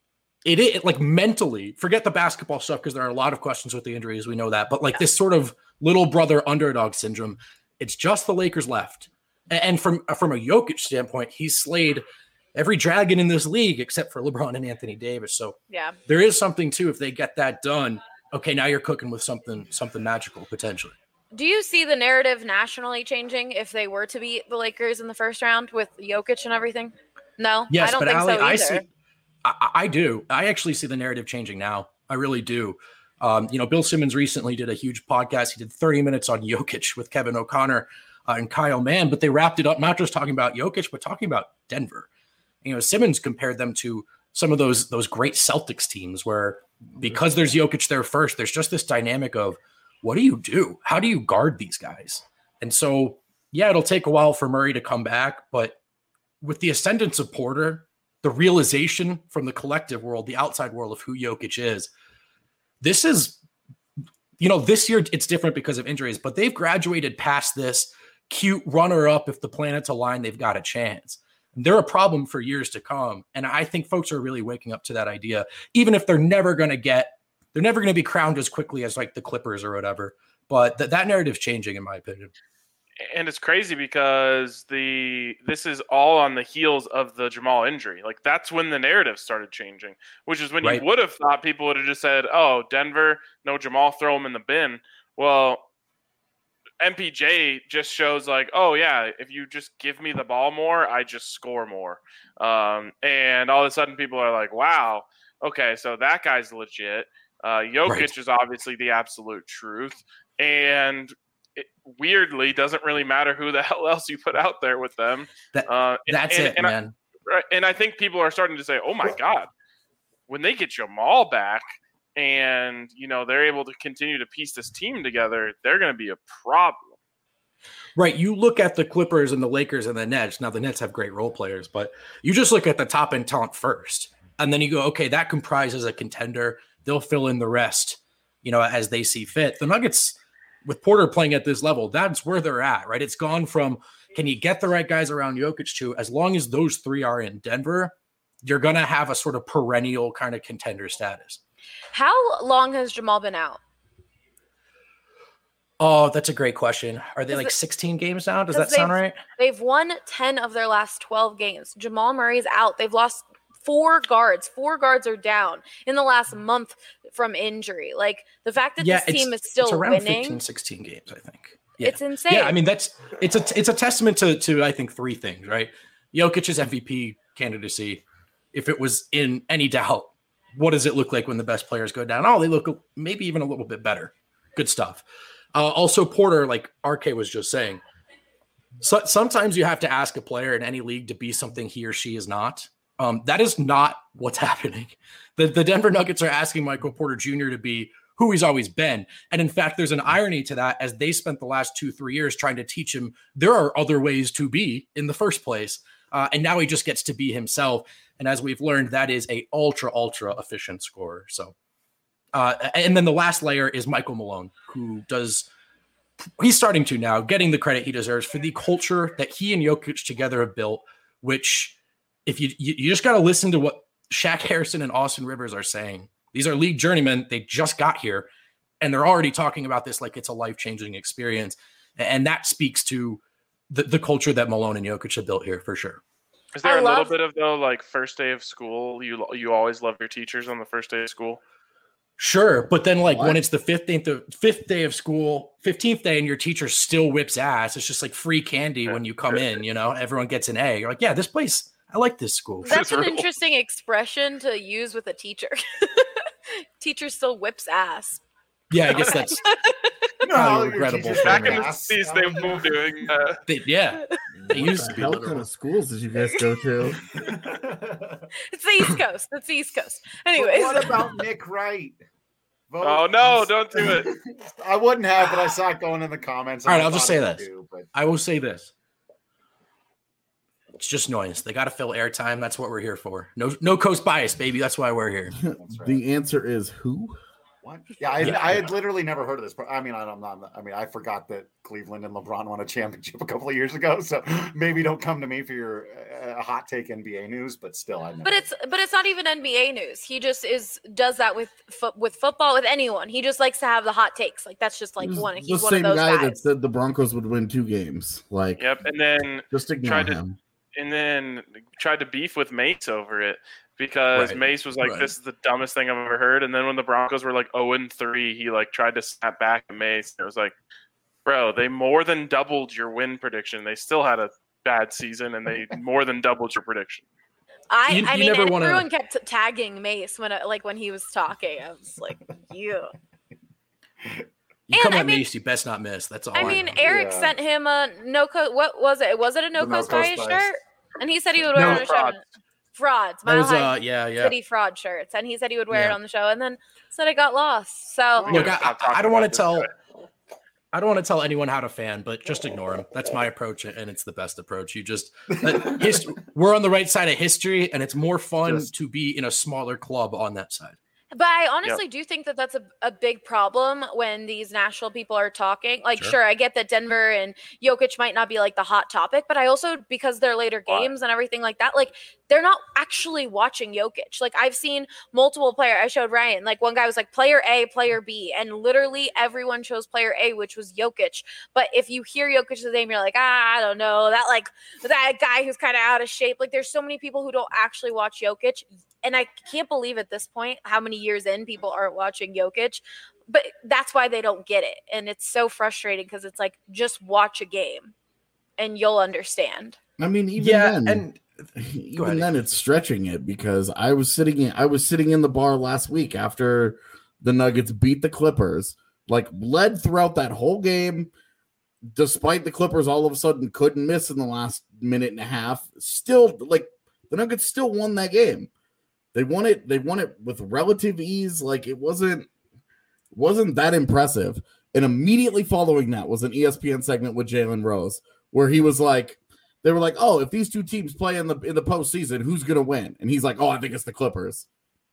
it is like mentally, forget the basketball stuff because there are a lot of questions with the injuries. We know that. But like this sort of little brother underdog syndrome, it's just the Lakers left. A- And from, from a Jokic standpoint, he's slayed every dragon in this league except for LeBron and Anthony Davis. So yeah. there is something too, if they get that done, okay, now you're cooking with something, something magical potentially. Do you see the narrative nationally changing if they were to beat the Lakers in the first round with Jokic and everything? No, Yes, I don't but think Ali, so either. I see, I, I do. I actually see the narrative changing now. I really do. Um, you know, Bill Simmons recently did a huge podcast. He did thirty minutes on Jokic with Kevin O'Connor uh, and Kyle Mann, but they wrapped it up not just talking about Jokic, but talking about Denver. You know, Simmons compared them to some of those those great Celtics teams where because there's Jokic there first, there's just this dynamic of what do you do? How do you guard these guys? And so, yeah, it'll take a while for Murray to come back, but with the ascendance of Porter, the realization from the collective world, the outside world of who Jokic is, this is, you know, this year it's different because of injuries, but they've graduated past this cute runner-up. If the planets align, they've got a chance. They're a problem for years to come. And I think folks are really waking up to that idea, even if they're never going to get, they're never going to be crowned as quickly as like the Clippers or whatever. But th- that narrative's changing, in my opinion. And it's crazy because the this is all on the heels of the Jamal injury. Like that's when the narrative started changing, which is when Right. you would have thought people would have just said, "Oh, Denver, no Jamal, throw him in the bin." Well, M P J just shows like, "Oh yeah, if you just give me the ball more, I just score more." Um, and all of a sudden, people are like, "Wow, okay, so that guy's legit." Uh, Jokic Right. is obviously the absolute truth, and it weirdly doesn't really matter who the hell else you put out there with them. That, Uh, and- that's and- it, and I- man. Right, and I think people are starting to say, "Oh my God, when they get Jamal back, and you know they're able to continue to piece this team together, they're going to be a problem." Right. You look at the Clippers and the Lakers and the Nets. Now, the Nets have great role players, but you just look at the top end talent first. And then you go, okay, that comprises a contender. They'll fill in the rest, you know, as they see fit. The Nuggets, with Porter playing at this level, that's where they're at, right? It's gone from, can you get the right guys around Jokic to, as long as those three are in Denver, you're going to have a sort of perennial kind of contender status. How long has Jamal been out? Oh, that's a great question. Are they Is like it- sixteen games now? Does 'cause that sound they've- right? They've won ten of their last twelve games. Jamal Murray's out. They've lost four guards. Four guards are down in the last month from injury. Like the fact that Yeah, this team it's, is still it's around winning, fifteen, sixteen games, I think. Yeah. it's insane. Yeah, I mean that's it's a it's a testament to to I think three things, right? Jokic's M V P candidacy. If it was in any doubt, what does it look like when the best players go down? Oh, they look maybe even a little bit better. Good stuff. Uh, also, Porter, like R K was just saying, so, sometimes you have to ask a player in any league to be something he or she is not. Um, that is not what's happening. The, the Denver Nuggets are asking Michael Porter Junior to be who he's always been. And in fact, there's an irony to that as they spent the last two, three years trying to teach him there are other ways to be in the first place. Uh, and now he just gets to be himself. And as we've learned, that is a ultra, ultra efficient scorer. So, uh, and then the last layer is Michael Malone, who does, he's starting to now getting the credit he deserves for the culture that he and Jokic together have built, which if you, you, you just got to listen to what Shaq Harrison and Austin Rivers are saying. These are league journeymen. They just got here and they're already talking about this like it's a life-changing experience. And that speaks to the, the culture that Malone and Jokic have built here for sure. Is there I a love- little bit of though, like first day of school? You you always love your teachers on the first day of school. Sure, but then like What? when it's the fifteenth, of, fifth day of school, fifteenth day, and your teacher still whips ass, it's just like free candy when you come in. You know, everyone gets an A. You're like, yeah, this place, I like this school. That's an real. interesting expression to use with a teacher. Teacher still whips ass. Yeah, I guess that's You know how Probably your regrettable teachers for Back whip in the ass? sixties, they were doing that. they, yeah. They What used the to be hell literal. kind of schools did you guys go to? It's the East Coast. That's the East Coast. But Anyways. what about Nick Wright? Vote Oh no! Don't do it. I wouldn't have, but I saw it going in the comments. All right, and I I'll just thought say I would this. do, but I will say this. It's just noise. They got to fill airtime. That's what we're here for. No, no coast bias, baby. That's why we're here. that's right. The answer is who? What? Yeah, I, Yeah. I had literally never heard of this. I mean, I'm not. I mean, I forgot that Cleveland and LeBron won a championship a couple of years ago. So maybe don't come to me for your uh, hot take N B A news. But still, I. But it's but it's not even N B A news. He just is does that with fo- with football with anyone. He just likes to have the hot takes. Like that's just like This is one. the He's one same of those guy guys. that said the Broncos would win two games. Like, Yep, and then just ignore tried to- him. and then tried to beef with Mace over it because Right, Mace was like, right. "This is the dumbest thing I've ever heard." And then when the Broncos were like zero and three, he like tried to snap back at Mace. It was like, "Bro, they more than doubled your win prediction. They still had a bad season, and they more than doubled your prediction." I You- I you mean, never and wanna- everyone kept tagging Mace when I, like when he was talking. I was like, you. You And, come I at mean- Mace, you best not miss. That's all I, I mean, know. Eric Yeah. sent him a no coast. What was it? Was it a no The no coast coast bias bias. shirt? And he said he would wear No, it on the show. frauds. Frauds. That Mile was, High uh, yeah, yeah. City fraud shirts, and he said he would wear it Yeah. on the show, and then said it got lost. So Look, Yeah, I, stop I, I talking don't want about to tell. this I don't want to tell anyone how to fan, but just ignore him. That's my approach, and it's the best approach. You just uh, hist- we're on the right side of history, and it's more fun Just- to be in a smaller club on that side. But I honestly do think that that's a, a big problem when these national people are talking. Like, Sure. sure. I get that Denver and Jokic might not be like the hot topic, but I also, because they're later Why? games and everything like that, like they're not actually watching Jokic. Like I've seen multiple player. I showed Ryan, like one guy was like player A, player B, and literally everyone chose player A, which was Jokic. But if you hear Jokic's name, you're like, ah, I don't know, that like that guy who's kind of out of shape. Like there's so many people who don't actually watch Jokic. And I can't believe at this point how many years in people aren't watching Jokic, but that's why they don't get it. And it's so frustrating because it's like, just watch a game and you'll understand. I mean, even Yeah, then, and even ahead. then, it's stretching it because I was sitting in, I was sitting in the bar last week after the Nuggets beat the Clippers, like led throughout that whole game, despite the Clippers all of a sudden couldn't miss in the last minute and a half. Still, like the Nuggets still won that game. They won it. They won it with relative ease. Like it wasn't wasn't that impressive. And immediately following that was an E S P N segment with Jalen Rose, where he was like, they were like, "Oh, if these two teams play in the in the postseason, who's gonna win?" And he's like, "Oh, I think it's the Clippers."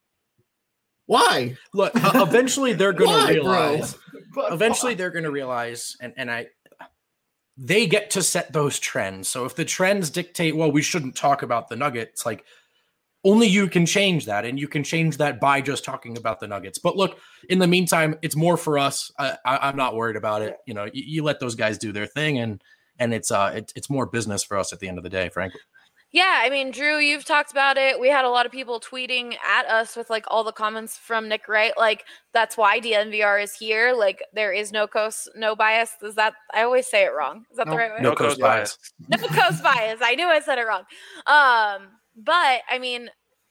Why? Look, uh, eventually they're going Why, to bro? realize. But Eventually they're going to realize, and and I, they get to set those trends. So if the trends dictate, well, we shouldn't talk about the Nuggets, like only you can change that, and you can change that by just talking about the Nuggets. But look, in the meantime, it's more for us. I, I, I'm not worried about it. You know, you, you let those guys do their thing, and and it's uh it, it's more business for us at the end of the day, frankly. Yeah, I mean, Drew, you've talked about it. We had a lot of people tweeting at us with like all the comments from Nick Wright. Like, that's why D N V R is here. Like, there is no coast, no bias. Is that, I always say it wrong. Is that the right way? No No coast coast bias. No coast bias. I knew I said it wrong. Um, but I mean,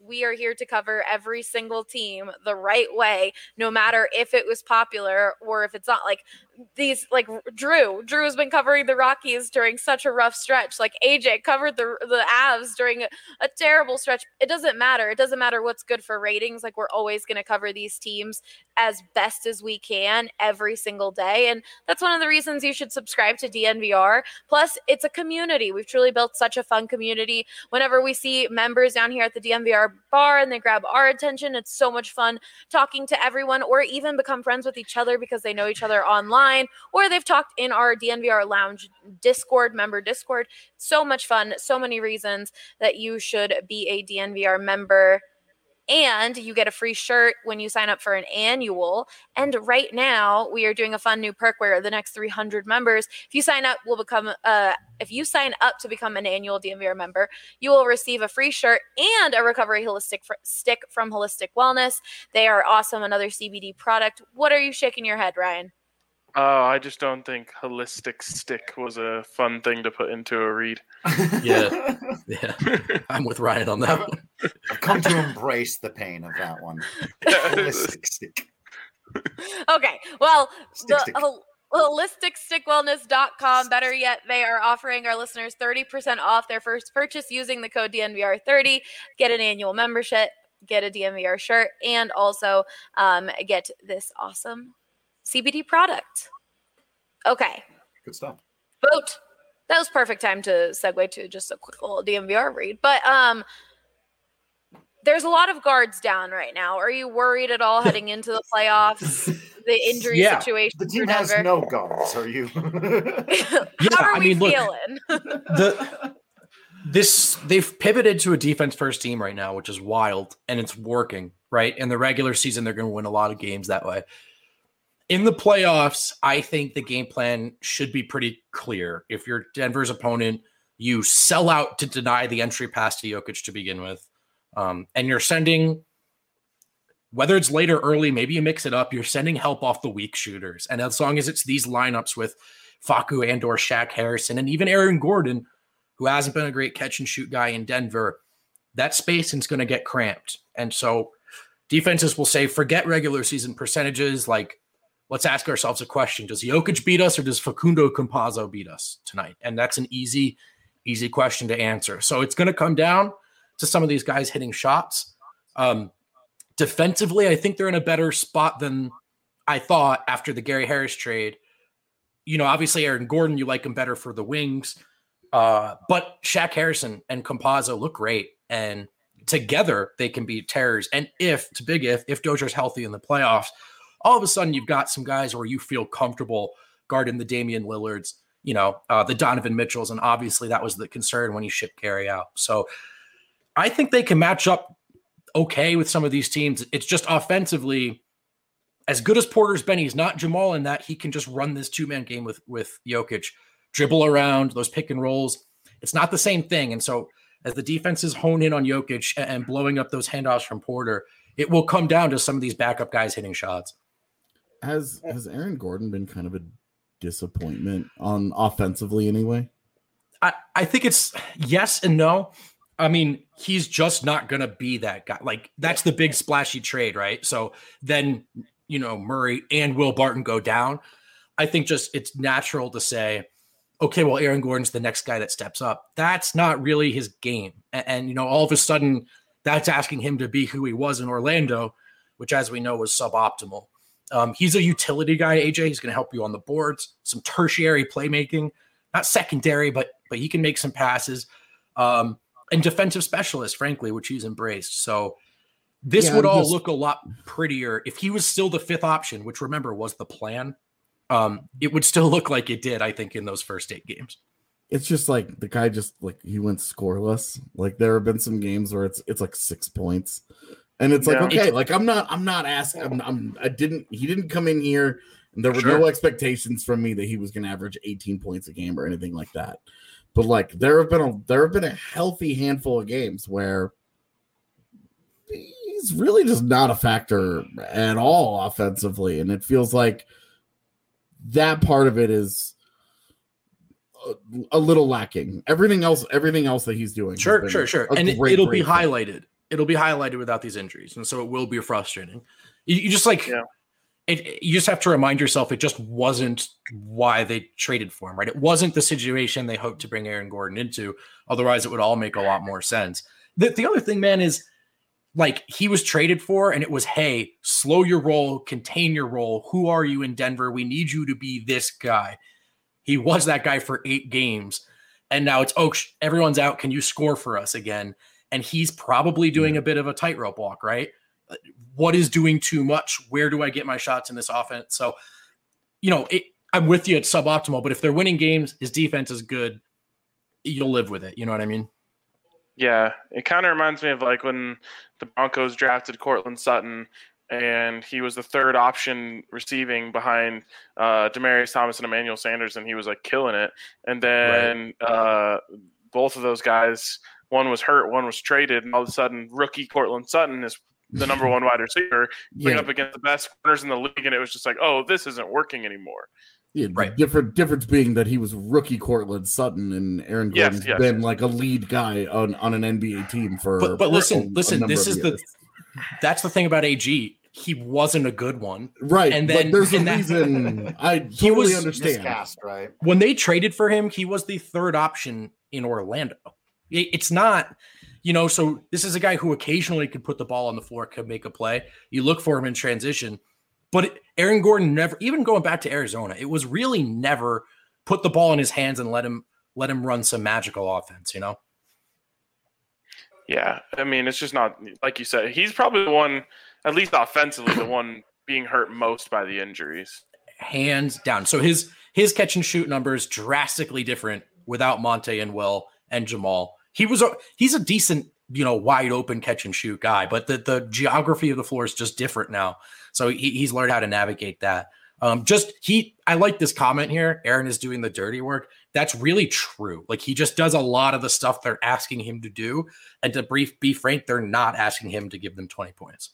we are here to cover every single team the right way, no matter if it was popular or if it's not. Like these, like Drew, Drew has been covering the Rockies during such a rough stretch. Like A J covered the the Avs during a, a terrible stretch. It doesn't matter. It doesn't matter what's good for ratings. Like we're always going to cover these teams as best as we can every single day. And that's one of the reasons you should subscribe to D N V R. Plus, it's a community. We've truly built such a fun community. Whenever we see members down here at the D N V R bar and they grab our attention, it's so much fun talking to everyone, or even become friends with each other because they know each other online, or they've talked in our D N V R Lounge Discord, member Discord. So much fun. So many reasons that you should be a D N V R member. And you get a free shirt when you sign up for an annual. And right now we are doing a fun new perk where the next three hundred members, if you sign up, will become uh, if you sign up to become an annual D N V R member, you will receive a free shirt and a recovery holistic fr- stick from Holistic Wellness. They are awesome. Another C B D product. What are you shaking your head, Ryan? Oh, I just don't think holistic stick was a fun thing to put into a read. Yeah, yeah, I'm with Ryan on that one. I've come to embrace the pain of that one. Holistic stick. Okay, well, Stick, the stick. hol- holistic stick wellness dot com, better yet, they are offering our listeners thirty percent off their first purchase using the code D N V R thirty. Get an annual membership, get a D N V R shirt, and also um, get this awesome C B D product. Okay. Good stuff. Vote. That was perfect time to segue to just a quick little D N V R read. But um, there's a lot of guards down right now. Are you worried at all heading into the playoffs? The injury Yeah. situation The team for has Denver? no guards. Are you? How Yeah, are I we mean, look, feeling? the this they've pivoted to a defense first team right now, which is wild, and it's working, right? In the regular season, they're going to win a lot of games that way. In the playoffs, I think the game plan should be pretty clear. If you're Denver's opponent, you sell out to deny the entry pass to Jokic to begin with. Um, and you're sending, whether it's late or early, maybe you mix it up, you're sending help off the weak shooters. And as long as it's these lineups with Facu and or Shaq Harrison and even Aaron Gordon, who hasn't been a great catch and shoot guy in Denver, that spacing's going to get cramped. And so defenses will say, forget regular season percentages. Like, let's ask ourselves a question. Does Jokic beat us or does Facundo Campazzo beat us tonight? And that's an easy, easy question to answer. So it's going to come down to some of these guys hitting shots. Um, defensively, I think they're in a better spot than I thought after the Gary Harris trade. You know, obviously Aaron Gordon, you like him better for the wings. Uh, but Shaq Harrison and Campazzo look great. And together they can be terrors. And if, it's a big if, if Dozier's healthy in the playoffs, all of a sudden you've got some guys where you feel comfortable guarding the Damian Lillards, you know, uh, the Donovan Mitchells. And obviously that was the concern when you shipped Gary out. So I think they can match up okay with some of these teams. It's just offensively, as good as Porter's been, he's not Jamal in that he can just run this two-man game with, with Jokic, dribble around those pick and rolls. It's not the same thing. And so as the defenses hone in on Jokic and blowing up those handoffs from Porter, it will come down to some of these backup guys hitting shots. Has has Aaron Gordon been kind of a disappointment on offensively anyway? I, I think it's yes and no. I mean, he's just not going to be that guy. Like, that's the big splashy trade, right? So then, you know, Murray and Will Barton go down. I think just it's natural to say, okay, well, Aaron Gordon's the next guy that steps up. That's not really his game. And, and you know, all of a sudden, that's asking him to be who he was in Orlando, which, as we know, was suboptimal. Um, he's a utility guy, A J. He's going to help you on the boards, some tertiary playmaking, not secondary, but but he can make some passes. Um, and defensive specialist, frankly, which he's embraced. So this Yeah, would I'm all just- look a lot prettier if he was still the fifth option, which, remember, was the plan. Um, it would still look like it did, I think, in those first eight games. It's just like the guy just like he went scoreless. Like there have been some games where it's it's like six points. And it's like, Yeah. okay, like I'm not, I'm not asking, I'm, I'm, I didn't, he didn't come in here and there were Sure. no expectations from me that he was going to average eighteen points a game or anything like that. But like, there have been a, there have been a healthy handful of games where he's really just not a factor at all offensively. And it feels like that part of it is a, a little lacking. Everything else, everything else that he's doing. has Sure, been sure, sure. a And it, great, it'll be great thing. highlighted. it'll be highlighted without these injuries, and so it will be frustrating. You, you just like yeah. it. You just have to remind yourself it just wasn't why they traded for him, right? It wasn't the situation they hoped to bring Aaron Gordon into. Otherwise, it would all make a lot more sense. The the other thing, man, is like he was traded for, and it was, hey, slow your roll, contain your roll. Who are you in Denver? We need you to be this guy. He was that guy for eight games, and now it's, oh, everyone's out. Can you score for us again? And he's probably doing a bit of a tightrope walk, right? What is doing too much? Where do I get my shots in this offense? So, you know, it, I'm with you. It's suboptimal, but if they're winning games, his defense is good. You'll live with it. You know what I mean? Yeah, it kind of reminds me of like when the Broncos drafted Cortland Sutton, and he was the third option receiving behind uh, Demaryius Thomas and Emmanuel Sanders, and he was like killing it. And then right. uh, both of those guys, one was hurt, one was traded, and all of a sudden, rookie Cortland Sutton is the number one wide receiver, going Yeah. up against the best corners in the league, and it was just like, oh, this isn't working anymore. Yeah, the Right. different difference being that he was rookie Cortland Sutton, and Aaron Yes, Gordon's yes. been like a lead guy on, on an N B A team for. But, but a- listen, a listen, number this of is years. the, that's the thing about A G. He wasn't a good one. right. and but then- there's a and that- reason. I totally He was understand. Miscast, right? When they traded for him, he was the third option in Orlando. It- It's not, you know, so this is a guy who occasionally could put the ball on the floor, could make a play. You look for him in transition, but it, Aaron Gordon never, even going back to Arizona, it was really never put the ball in his hands and let him let him run some magical offense, you know? Yeah, I mean, it's just not like you said. He's probably the one, at least offensively, the one being hurt most by the injuries. Hands down. So his his catch and shoot numbers drastically different without Monte and Will and Jamal. He was a he's a decent, you know, wide open catch and shoot guy, but the the geography of the floor is just different now. So he, he's learned how to navigate that. Um, just he, I like this comment here. Aaron is doing the dirty work. That's really true. Like he just does a lot of the stuff they're asking him to do. And to brief, be frank, they're not asking him to give them twenty points.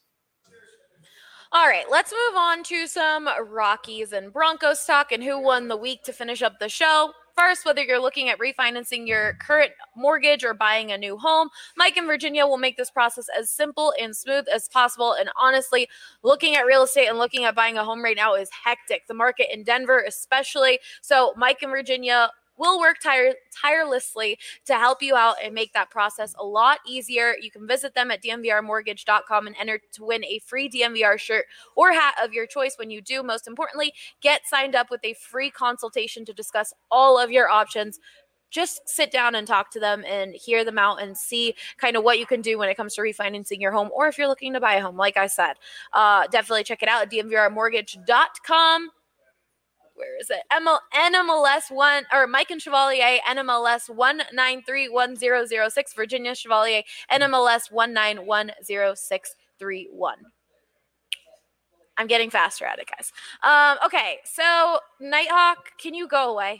All right, let's move on to some Rockies and Broncos talk and who won the week to finish up the show. First, whether you're looking at refinancing your current mortgage or buying a new home, Mike in Virginia will make this process as simple and smooth as possible. And honestly, looking at real estate and looking at buying a home right now is hectic. The market in Denver especially. So Mike in Virginia will work tire- tirelessly to help you out and make that process a lot easier. You can visit them at d m v r mortgage dot com and enter to win a free D M V R shirt or hat of your choice when you do. Most importantly, get signed up with a free consultation to discuss all of your options. Just sit down and talk to them and hear them out and see kind of what you can do when it comes to refinancing your home or if you're looking to buy a home. Like I said, uh, definitely check it out at d m v r mortgage dot com. Where is it? M L- N M L S one or Mike and Chevalier N M L S one nine three one zero zero six, Virginia Chevalier N M L S one nine one zero six three one. I'm getting faster at it, guys. Um, okay, so Nighthawk, can you go away?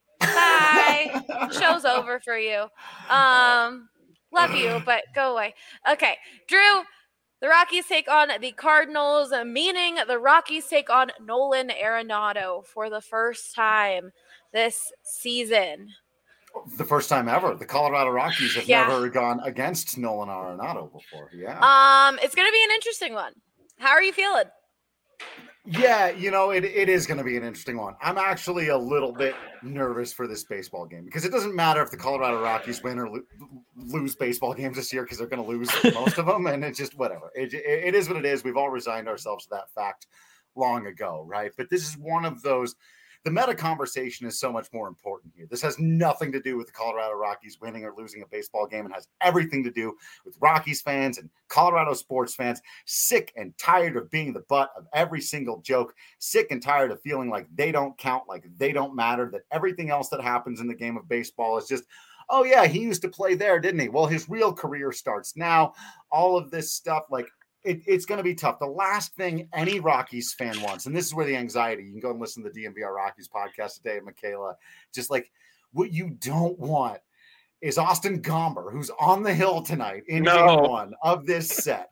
Bye. Show's over for you. Um, love you, but go away. Okay, Drew. The Rockies take on the Cardinals, meaning the Rockies take on Nolan Arenado for the first time this season. The first time ever. The Colorado Rockies have Yeah. never gone against Nolan Arenado before. Yeah. Um, it's going to be an interesting one. How are you feeling? Yeah, you know, it, it is going to be an interesting one. I'm actually a little bit nervous for this baseball game because it doesn't matter if the Colorado Rockies win or lo- lose baseball games this year because they're going to lose most of them. And it's just whatever. It, it, it is what it is. We've all resigned ourselves to that fact long ago, right? But this is one of those. The meta conversation is so much more important here. This has nothing to do with the Colorado Rockies winning or losing a baseball game. It has everything to do with Rockies fans and Colorado sports fans sick and tired of being the butt of every single joke, sick and tired of feeling like they don't count, like they don't matter, that everything else that happens in the game of baseball is just, oh yeah, he used to play there, didn't he? Well, his real career starts now. All of this stuff, like, It, it's going to be tough. The last thing any Rockies fan wants, and this is where the anxiety, you can go and listen to the D M V R Rockies podcast today, Michaela, just like what you don't want is Austin Gomber, who's on the hill tonight in No. game one of this set,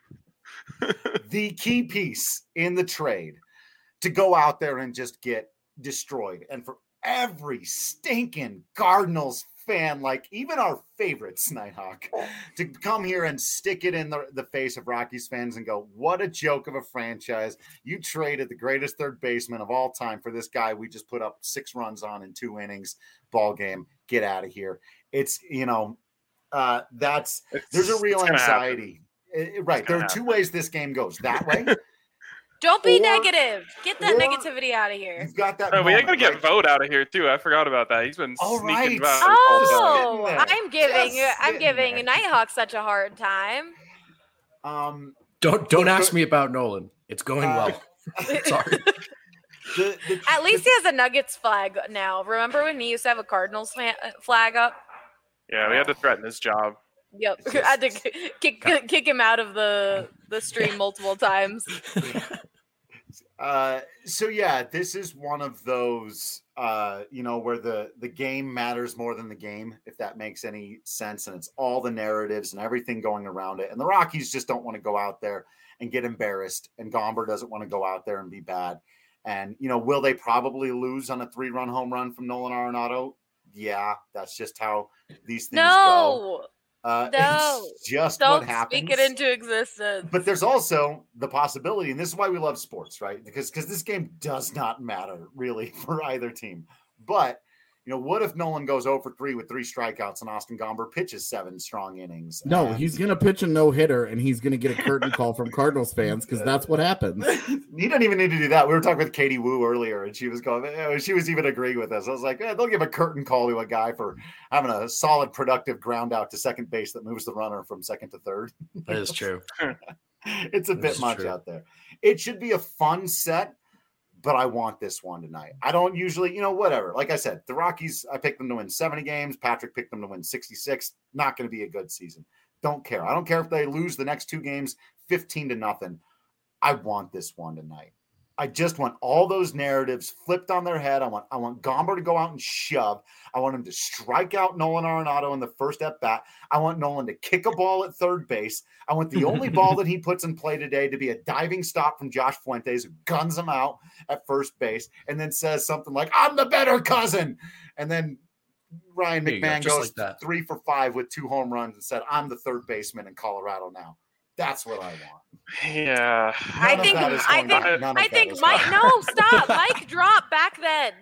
the key piece in the trade, to go out there and just get destroyed. And for every stinking Cardinals fan like even our favorites, Nighthawk, to come here and stick it in the, the face of Rockies fans and go, what a joke of a franchise. You traded the greatest third baseman of all time for this guy we just put up six runs on in two innings, ball game, get out of here. It's, you know, uh, that's, It's, there's a real it's anxiety. It, right. There are happen. two ways this game goes. That way. Don't be Or- negative. Get that or- negativity out of here. You've got that. Oh, we moment, gotta get right? Vote out of here too. I forgot about that. He's been All sneaking right. about. Oh, Just sitting I'm there. giving Just I'm sitting giving there. Nighthawk such a hard time. Um, Don't don't But- ask me about Nolan. It's going Uh, well. Sorry. the, the, At least he has a Nuggets flag now. Remember when he used to have a Cardinals fa- flag up? Yeah, we had to threaten his job. Yep, It's I had to just- kick kick him out of the the stream multiple times. Uh, so yeah, this is one of those, uh, you know, where the the game matters more than the game, if that makes any sense, and it's all the narratives and everything going around it. And the Rockies just don't want to go out there and get embarrassed, and Gomber doesn't want to go out there and be bad. And you know, will they probably lose on a three-run home run from Nolan Arenado? Yeah, that's just how these things go. No, Uh, no. it's just don't what happens. speak it into existence. But there's also the possibility, and this is why we love sports, right? Because because this game does not matter really for either team. But you know, what if Nolan goes oh for three with three strikeouts and Austin Gomber pitches seven strong innings? No, And- he's gonna pitch a no hitter, and he's gonna get a curtain call from Cardinals fans because that's what happens. He doesn't even need to do that. We were talking with Katie Wu earlier, and she was going. eh, She was even agreeing with us. I was like, eh, they'll give a curtain call to a guy for having a solid, productive ground out to second base that moves the runner from second to third. That is true. It's a This bit is much true. out there. It should be a fun set, but I want this one tonight. I don't usually, you know, whatever. Like I said, the Rockies, I picked them to win seventy games. Patrick picked them to win sixty-six. Not going to be a good season. Don't care. I don't care if they lose the next two games fifteen to nothing. I want this one tonight. I just want all those narratives flipped on their head. I want I want Gomber to go out and shove. I want him to strike out Nolan Arenado in the first at bat. I want Nolan to kick a ball at third base. I want the only ball that he puts in play today to be a diving stop from Josh Fuentes, who guns him out at first base and then says something like, I'm the better cousin. And then Ryan There you go, McMahon just goes like that. three for five with two home runs and said, I'm the third baseman in Colorado now. That's what I want. Yeah. I None of think that is I going think on. None of I that think is Mike. going on. No, stop. Mike drop back then.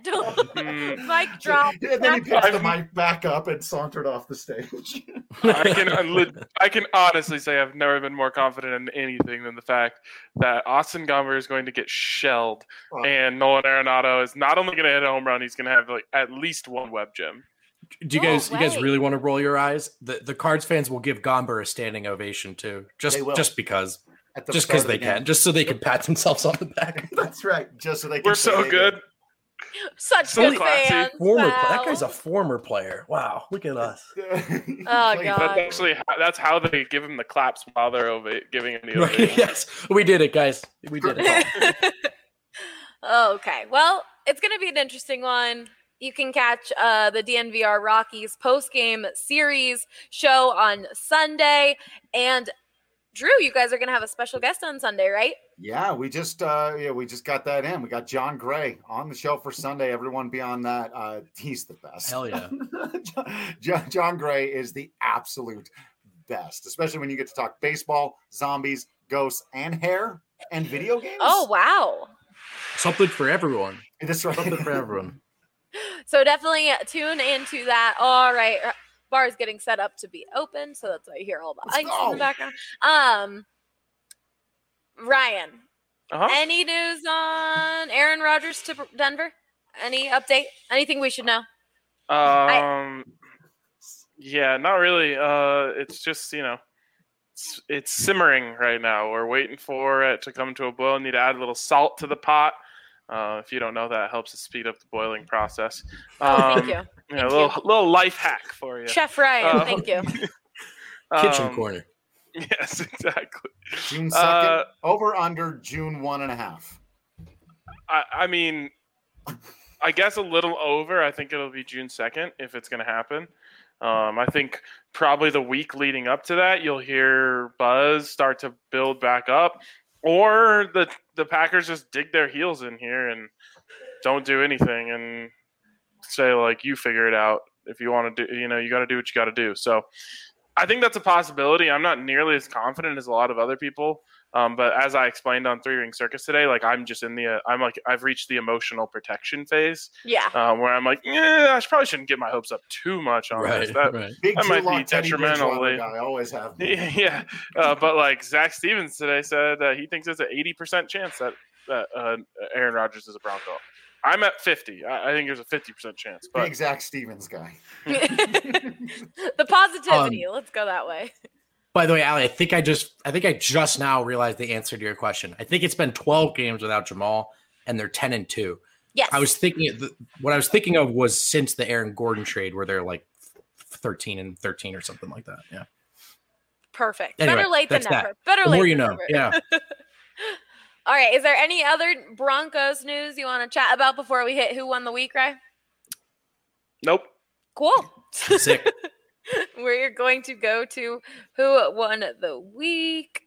Mm, Mike drop. And then he back picked the then. mic back up and sauntered off the stage. I can unli- I can honestly say I've never been more confident in anything than the fact that Austin Gomber is going to get shelled, Well, and Nolan Arenado is not only going to hit a home run, he's going to have like at least one web gem. Do you No guys you guys way. really want to roll your eyes? The the Cards fans will give Gomber a standing ovation too. Just They will. just because. at the Just start because of they the game. can. Just so they can pat themselves on the back. That's right. Just so they can We're say so they good. did. Such So good classy. fans. Former wow. that guy's a former player. Wow, look at us. Oh, Played- God. That's actually how, that's how they give him the claps while they're ova- giving him the Right, ovation. yes, we did it, guys. We did it. Okay. Well, it's going to be an interesting one. You can catch uh, the D N V R Rockies post-game series show on Sunday. And Drew, you guys are going to have a special guest on Sunday, right? Yeah, we just uh yeah, we just got that in. We got John Gray on the show for Sunday. Everyone be on that. Uh he's the best. Hell yeah. John, John Gray is the absolute best, especially when you get to talk baseball, zombies, ghosts, and hair and video games. Oh, wow. Something for everyone. That's right. Something for everyone. So definitely tune into that. All right. Bar is getting set up to be open, so that's why you hear all the Let's ice in go. the background. Um, Ryan, Uh-huh. any news on Aaron Rodgers to Denver? Any update? Anything we should know? Um, yeah, not really. Uh, it's just you know, it's, it's simmering right now. We're waiting for it to come to a boil. Need to add a little salt to the pot. Uh, if you don't know that, it helps to speed up the boiling process. Oh, thank Um, you. You know, Thank a little you. little life hack for you. Chef Ryan, Uh, thank you. Kitchen Um, corner. Yes, exactly. June second, Uh, over under June one and a half. I, I mean, I guess a little over. I think it'll be June second if it's going to happen. Um, I think probably the week leading up to that, you'll hear buzz start to build back up, or the the Packers just dig their heels in here and don't do anything and say like, "You figure it out." if you want to do, you know, you got to do what you got to do. So I think that's a possibility. I'm not nearly as confident as a lot of other people. Um, but as I explained on Three Ring Circus today, like I'm just in the, uh, I'm like, I've reached the emotional protection phase. Yeah. Um, where I'm like, yeah, I probably shouldn't get my hopes up too much on Right, this. That, right. Big that might two-lock be Teddy detrimental. Bridgewater guy, I always have. Yeah. yeah. Uh, but like Zach Stevens today said that he thinks it's an eighty percent chance that, that uh, Aaron Rodgers is a Bronco. I'm at fifty. I, I think there's a fifty percent chance. But Big Zach Stevens guy. The positivity. Um, Let's go that way. By the way, Ali, I think I just I think I just now realized the answer to your question. I think it's been twelve games without Jamal, and they're ten and two. Yes. I was thinking what I was thinking of was since the Aaron Gordon trade, where they're like thirteen and thirteen or something like that. Yeah. Perfect. Anyway, Better late than that's never. that. Better The late more than you know. never. Yeah. All right. Is there any other Broncos news you want to chat about before we hit who won the week, Ray? nope. Cool. Sick. We're going to go to who won the week.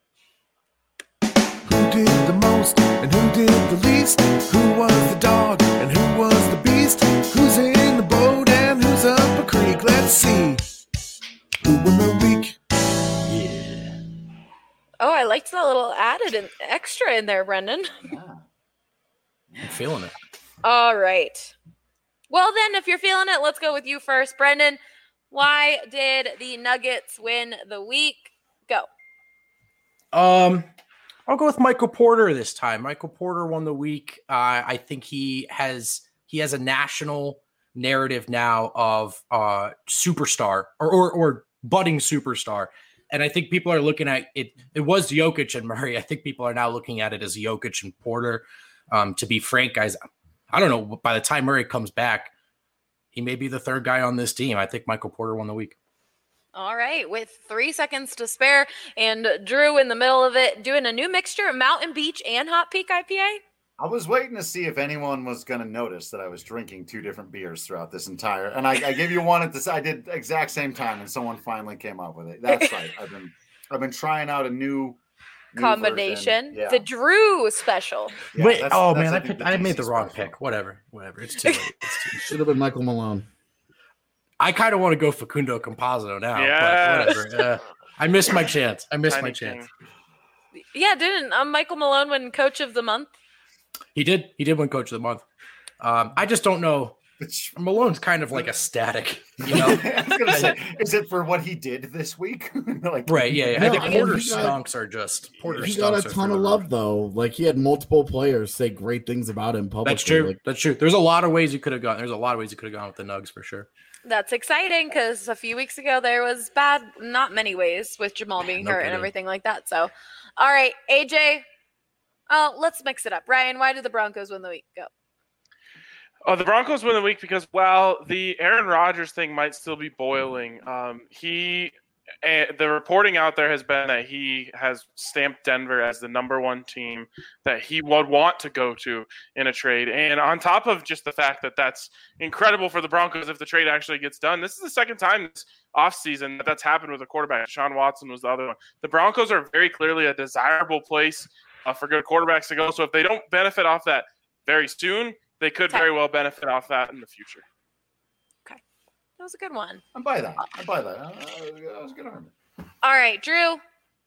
Who did the most and who did the least? Who was the dog and who was the beast? Who's in the boat and who's up a creek? Let's see. Who won the week? Yeah. Oh, I liked that little added and extra in there, Brendan. I'm feeling it. All right. Well, then, if you're feeling it, let's go with you first. Brendan, why did the Nuggets win the week? Go. Um, I'll go with Michael Porter this time. Michael Porter won the week. Uh, I think he has he has a national narrative now of uh, superstar or, or or budding superstar. And I think people are looking at it. It was Jokic and Murray. I think people are now looking at it as Jokic and Porter. Um, to be frank, guys, I don't know. By the time Murray comes back, he may be the third guy on this team. I think Michael Porter won the week. All right. With three seconds to spare and Drew in the middle of it doing a new mixture of Mountain Beach and Hot Peak I P A. I was waiting to see if anyone was going to notice that I was drinking two different beers throughout this entire, and I, I gave you one at this. I did exact same time, and someone finally came up with it. That's right. I've been, I've been trying out a new, new combination. Yeah. The Drew special. Yeah, Wait, that's- oh that's, man, I, think, picked, the I made D C the wrong special. pick. Whatever, whatever. It's too late. It's too, Should have been Michael Malone. I kind of want to go Facundo Composito now, Yes. but whatever. Uh, I missed my chance. I missed Tiny my chance. King. Yeah, didn't um, Michael Malone win Coach of the Month? He did. He did win Coach of the Month. Um, I just don't know. Malone's kind of like a static, you know. I was gonna say, is it for what he did this week? Like, Right? Yeah. yeah. No, I think I mean, Porter he got- stunks are just Porter. He got a stunks are ton through of the love roof. though. Like he had multiple players say great things about him publicly. That's true. Like, That's true. There's a lot of ways you could have gone. There's a lot of ways you could have gone with the Nugs for sure. That's exciting because a few weeks ago there was bad, not many ways with Jamal being No hurt and kidding. everything like that. So, all right, A J, uh, let's mix it up. Ryan, why did the Broncos win the week? Go. Oh, the Broncos win the week because, while the Aaron Rodgers thing might still be boiling, um, he uh, the reporting out there has been that he has stamped Denver as the number one team that he would want to go to in a trade. And on top of just the fact that that's incredible for the Broncos if the trade actually gets done, this is the second time this offseason that that's happened with a quarterback. Deshaun Watson was the other one. The Broncos are very clearly a desirable place uh, for good quarterbacks to go. So if they don't benefit off that very soon, they could very well benefit off that in the future. Okay. That was a good one. I buy that. I buy that. Uh, that was a good argument. All right, Drew.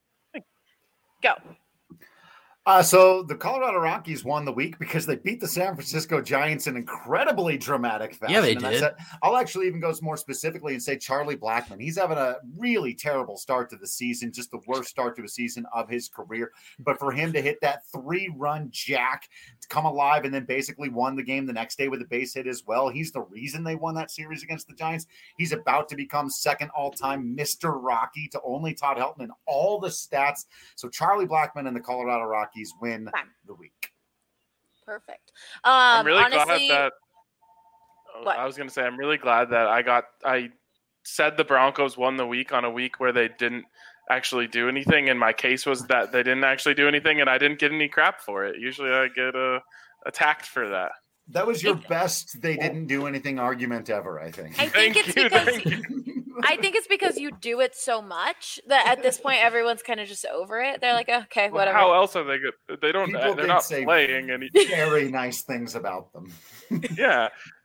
Go. Uh, so the Colorado Rockies won the week because they beat the San Francisco Giants in incredibly dramatic fashion. Yeah, they And that's did. it. I'll actually even go more specifically and say Charlie Blackmon. He's having a really terrible start to the season, just the worst start to a season of his career. But for him to hit that three-run jack to come alive and then basically won the game the next day with a base hit as well, he's the reason they won that series against the Giants. He's about to become second all-time Mister Rocky to only Todd Helton in all the stats. So Charlie Blackmon and the Colorado Rockies win the week. Perfect. Um, I'm really honestly, glad that. What? I was going to say I'm really glad that I got. I said the Broncos won the week on a week where they didn't actually do anything, and my case was that they didn't actually do anything, and I didn't get any crap for it. Usually, I get uh, attacked for that. That was your best they didn't do anything argument ever, I think. I think Thank it's you, because thank you. I think it's because you do it so much that at this point everyone's kind of just over it. They're like, okay, Well, whatever. how else are they good? They don't. People They're did not say playing any. very nice things about them. Yeah,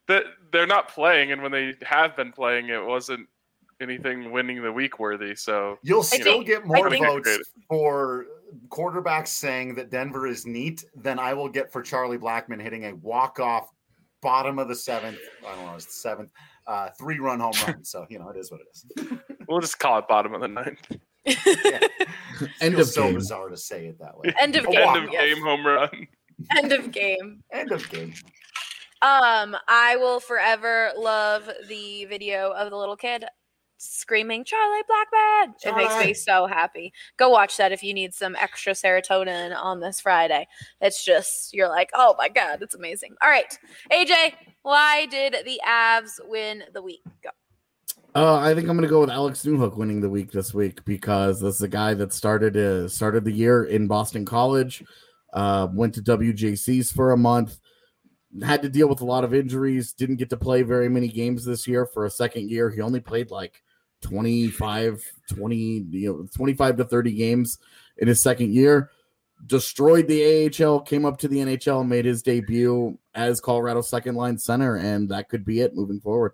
that they're not playing, and when they have been playing, it wasn't anything winning the week worthy. So you'll you still know, get more think- votes for quarterbacks saying that Denver is neat than I will get for Charlie Blackmon hitting a walk-off bottom of the seventh. I don't know, it's the seventh uh, three-run home run. So you know, it is what it is. We'll just call it bottom of the ninth. Yeah. End Feels of so game. bizarre to say it that way. End of A game. End of yes. game home run. End of game. End of game. Um, I will forever love the video of the little kid screaming Charlie Blackmon. It makes Charlie. me so happy. Go watch that if you need some extra serotonin on this Friday. It's just, you're like, oh my God, it's amazing. All right, A J, why did the Avs win the week? Go. Uh, I think I'm going to go with Alex Newhook winning the week this week because this is a guy that started uh, started the year in Boston College, uh, went to W J C's for a month, had to deal with a lot of injuries, didn't get to play very many games this year for a second year. He only played like twenty-five, twenty, you know, twenty-five to thirty games in his second year. Destroyed the A H L, came up to the N H L, made his debut as Colorado's second line center, and that could be it moving forward.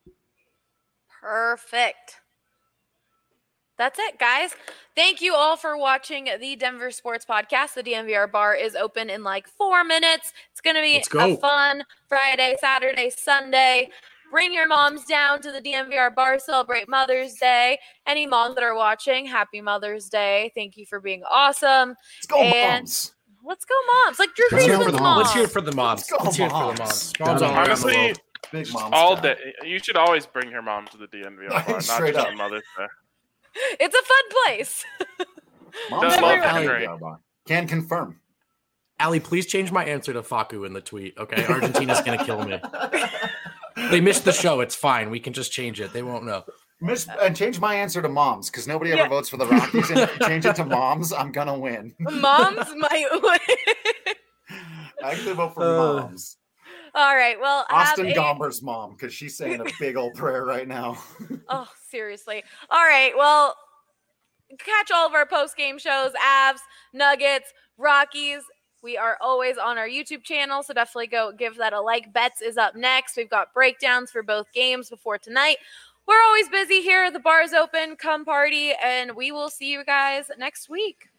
Perfect. That's it, guys. Thank you all for watching the Denver Sports Podcast. The D N V R bar is open in like four minutes. It's going to be Let's go. a fun Friday, Saturday, Sunday. Bring your moms down to the D N V R bar. Celebrate Mother's Day. Any moms that are watching, happy Mother's Day. Thank you for being awesome. Let's go, And moms. Let's go, moms. Like Drew Let's Brees go was for the moms. moms. Let's hear it for the moms. Let's go, Let's hear it for the moms. moms. Gotta Moms all be around the Honestly, world. Big moms. all time. day. You should always bring your mom to the D N V R bar, not Straight just up. on Mother's Day. It's a fun place. Moms Does love love Henry. Henry. Can confirm. Allie, please change my answer to Facu in the tweet, okay? Argentina's going to kill me. They missed the show. It's fine. We can just change it. They won't know. Miss and change my answer to moms because nobody ever Yeah. votes for the Rockies. And change it to moms. I'm gonna win. Moms might win. I actually vote for Uh, moms. All right. Well, Austin have a- Gomber's mom because she's saying a big old prayer right now. Oh, seriously. All right. Well, catch all of our post-game shows, Avs, Nuggets, Rockies. We are always on our YouTube channel, so definitely go give that a like. Bets is up next. We've got breakdowns for both games before tonight. We're always busy here. The bar is open. Come party, and we will see you guys next week.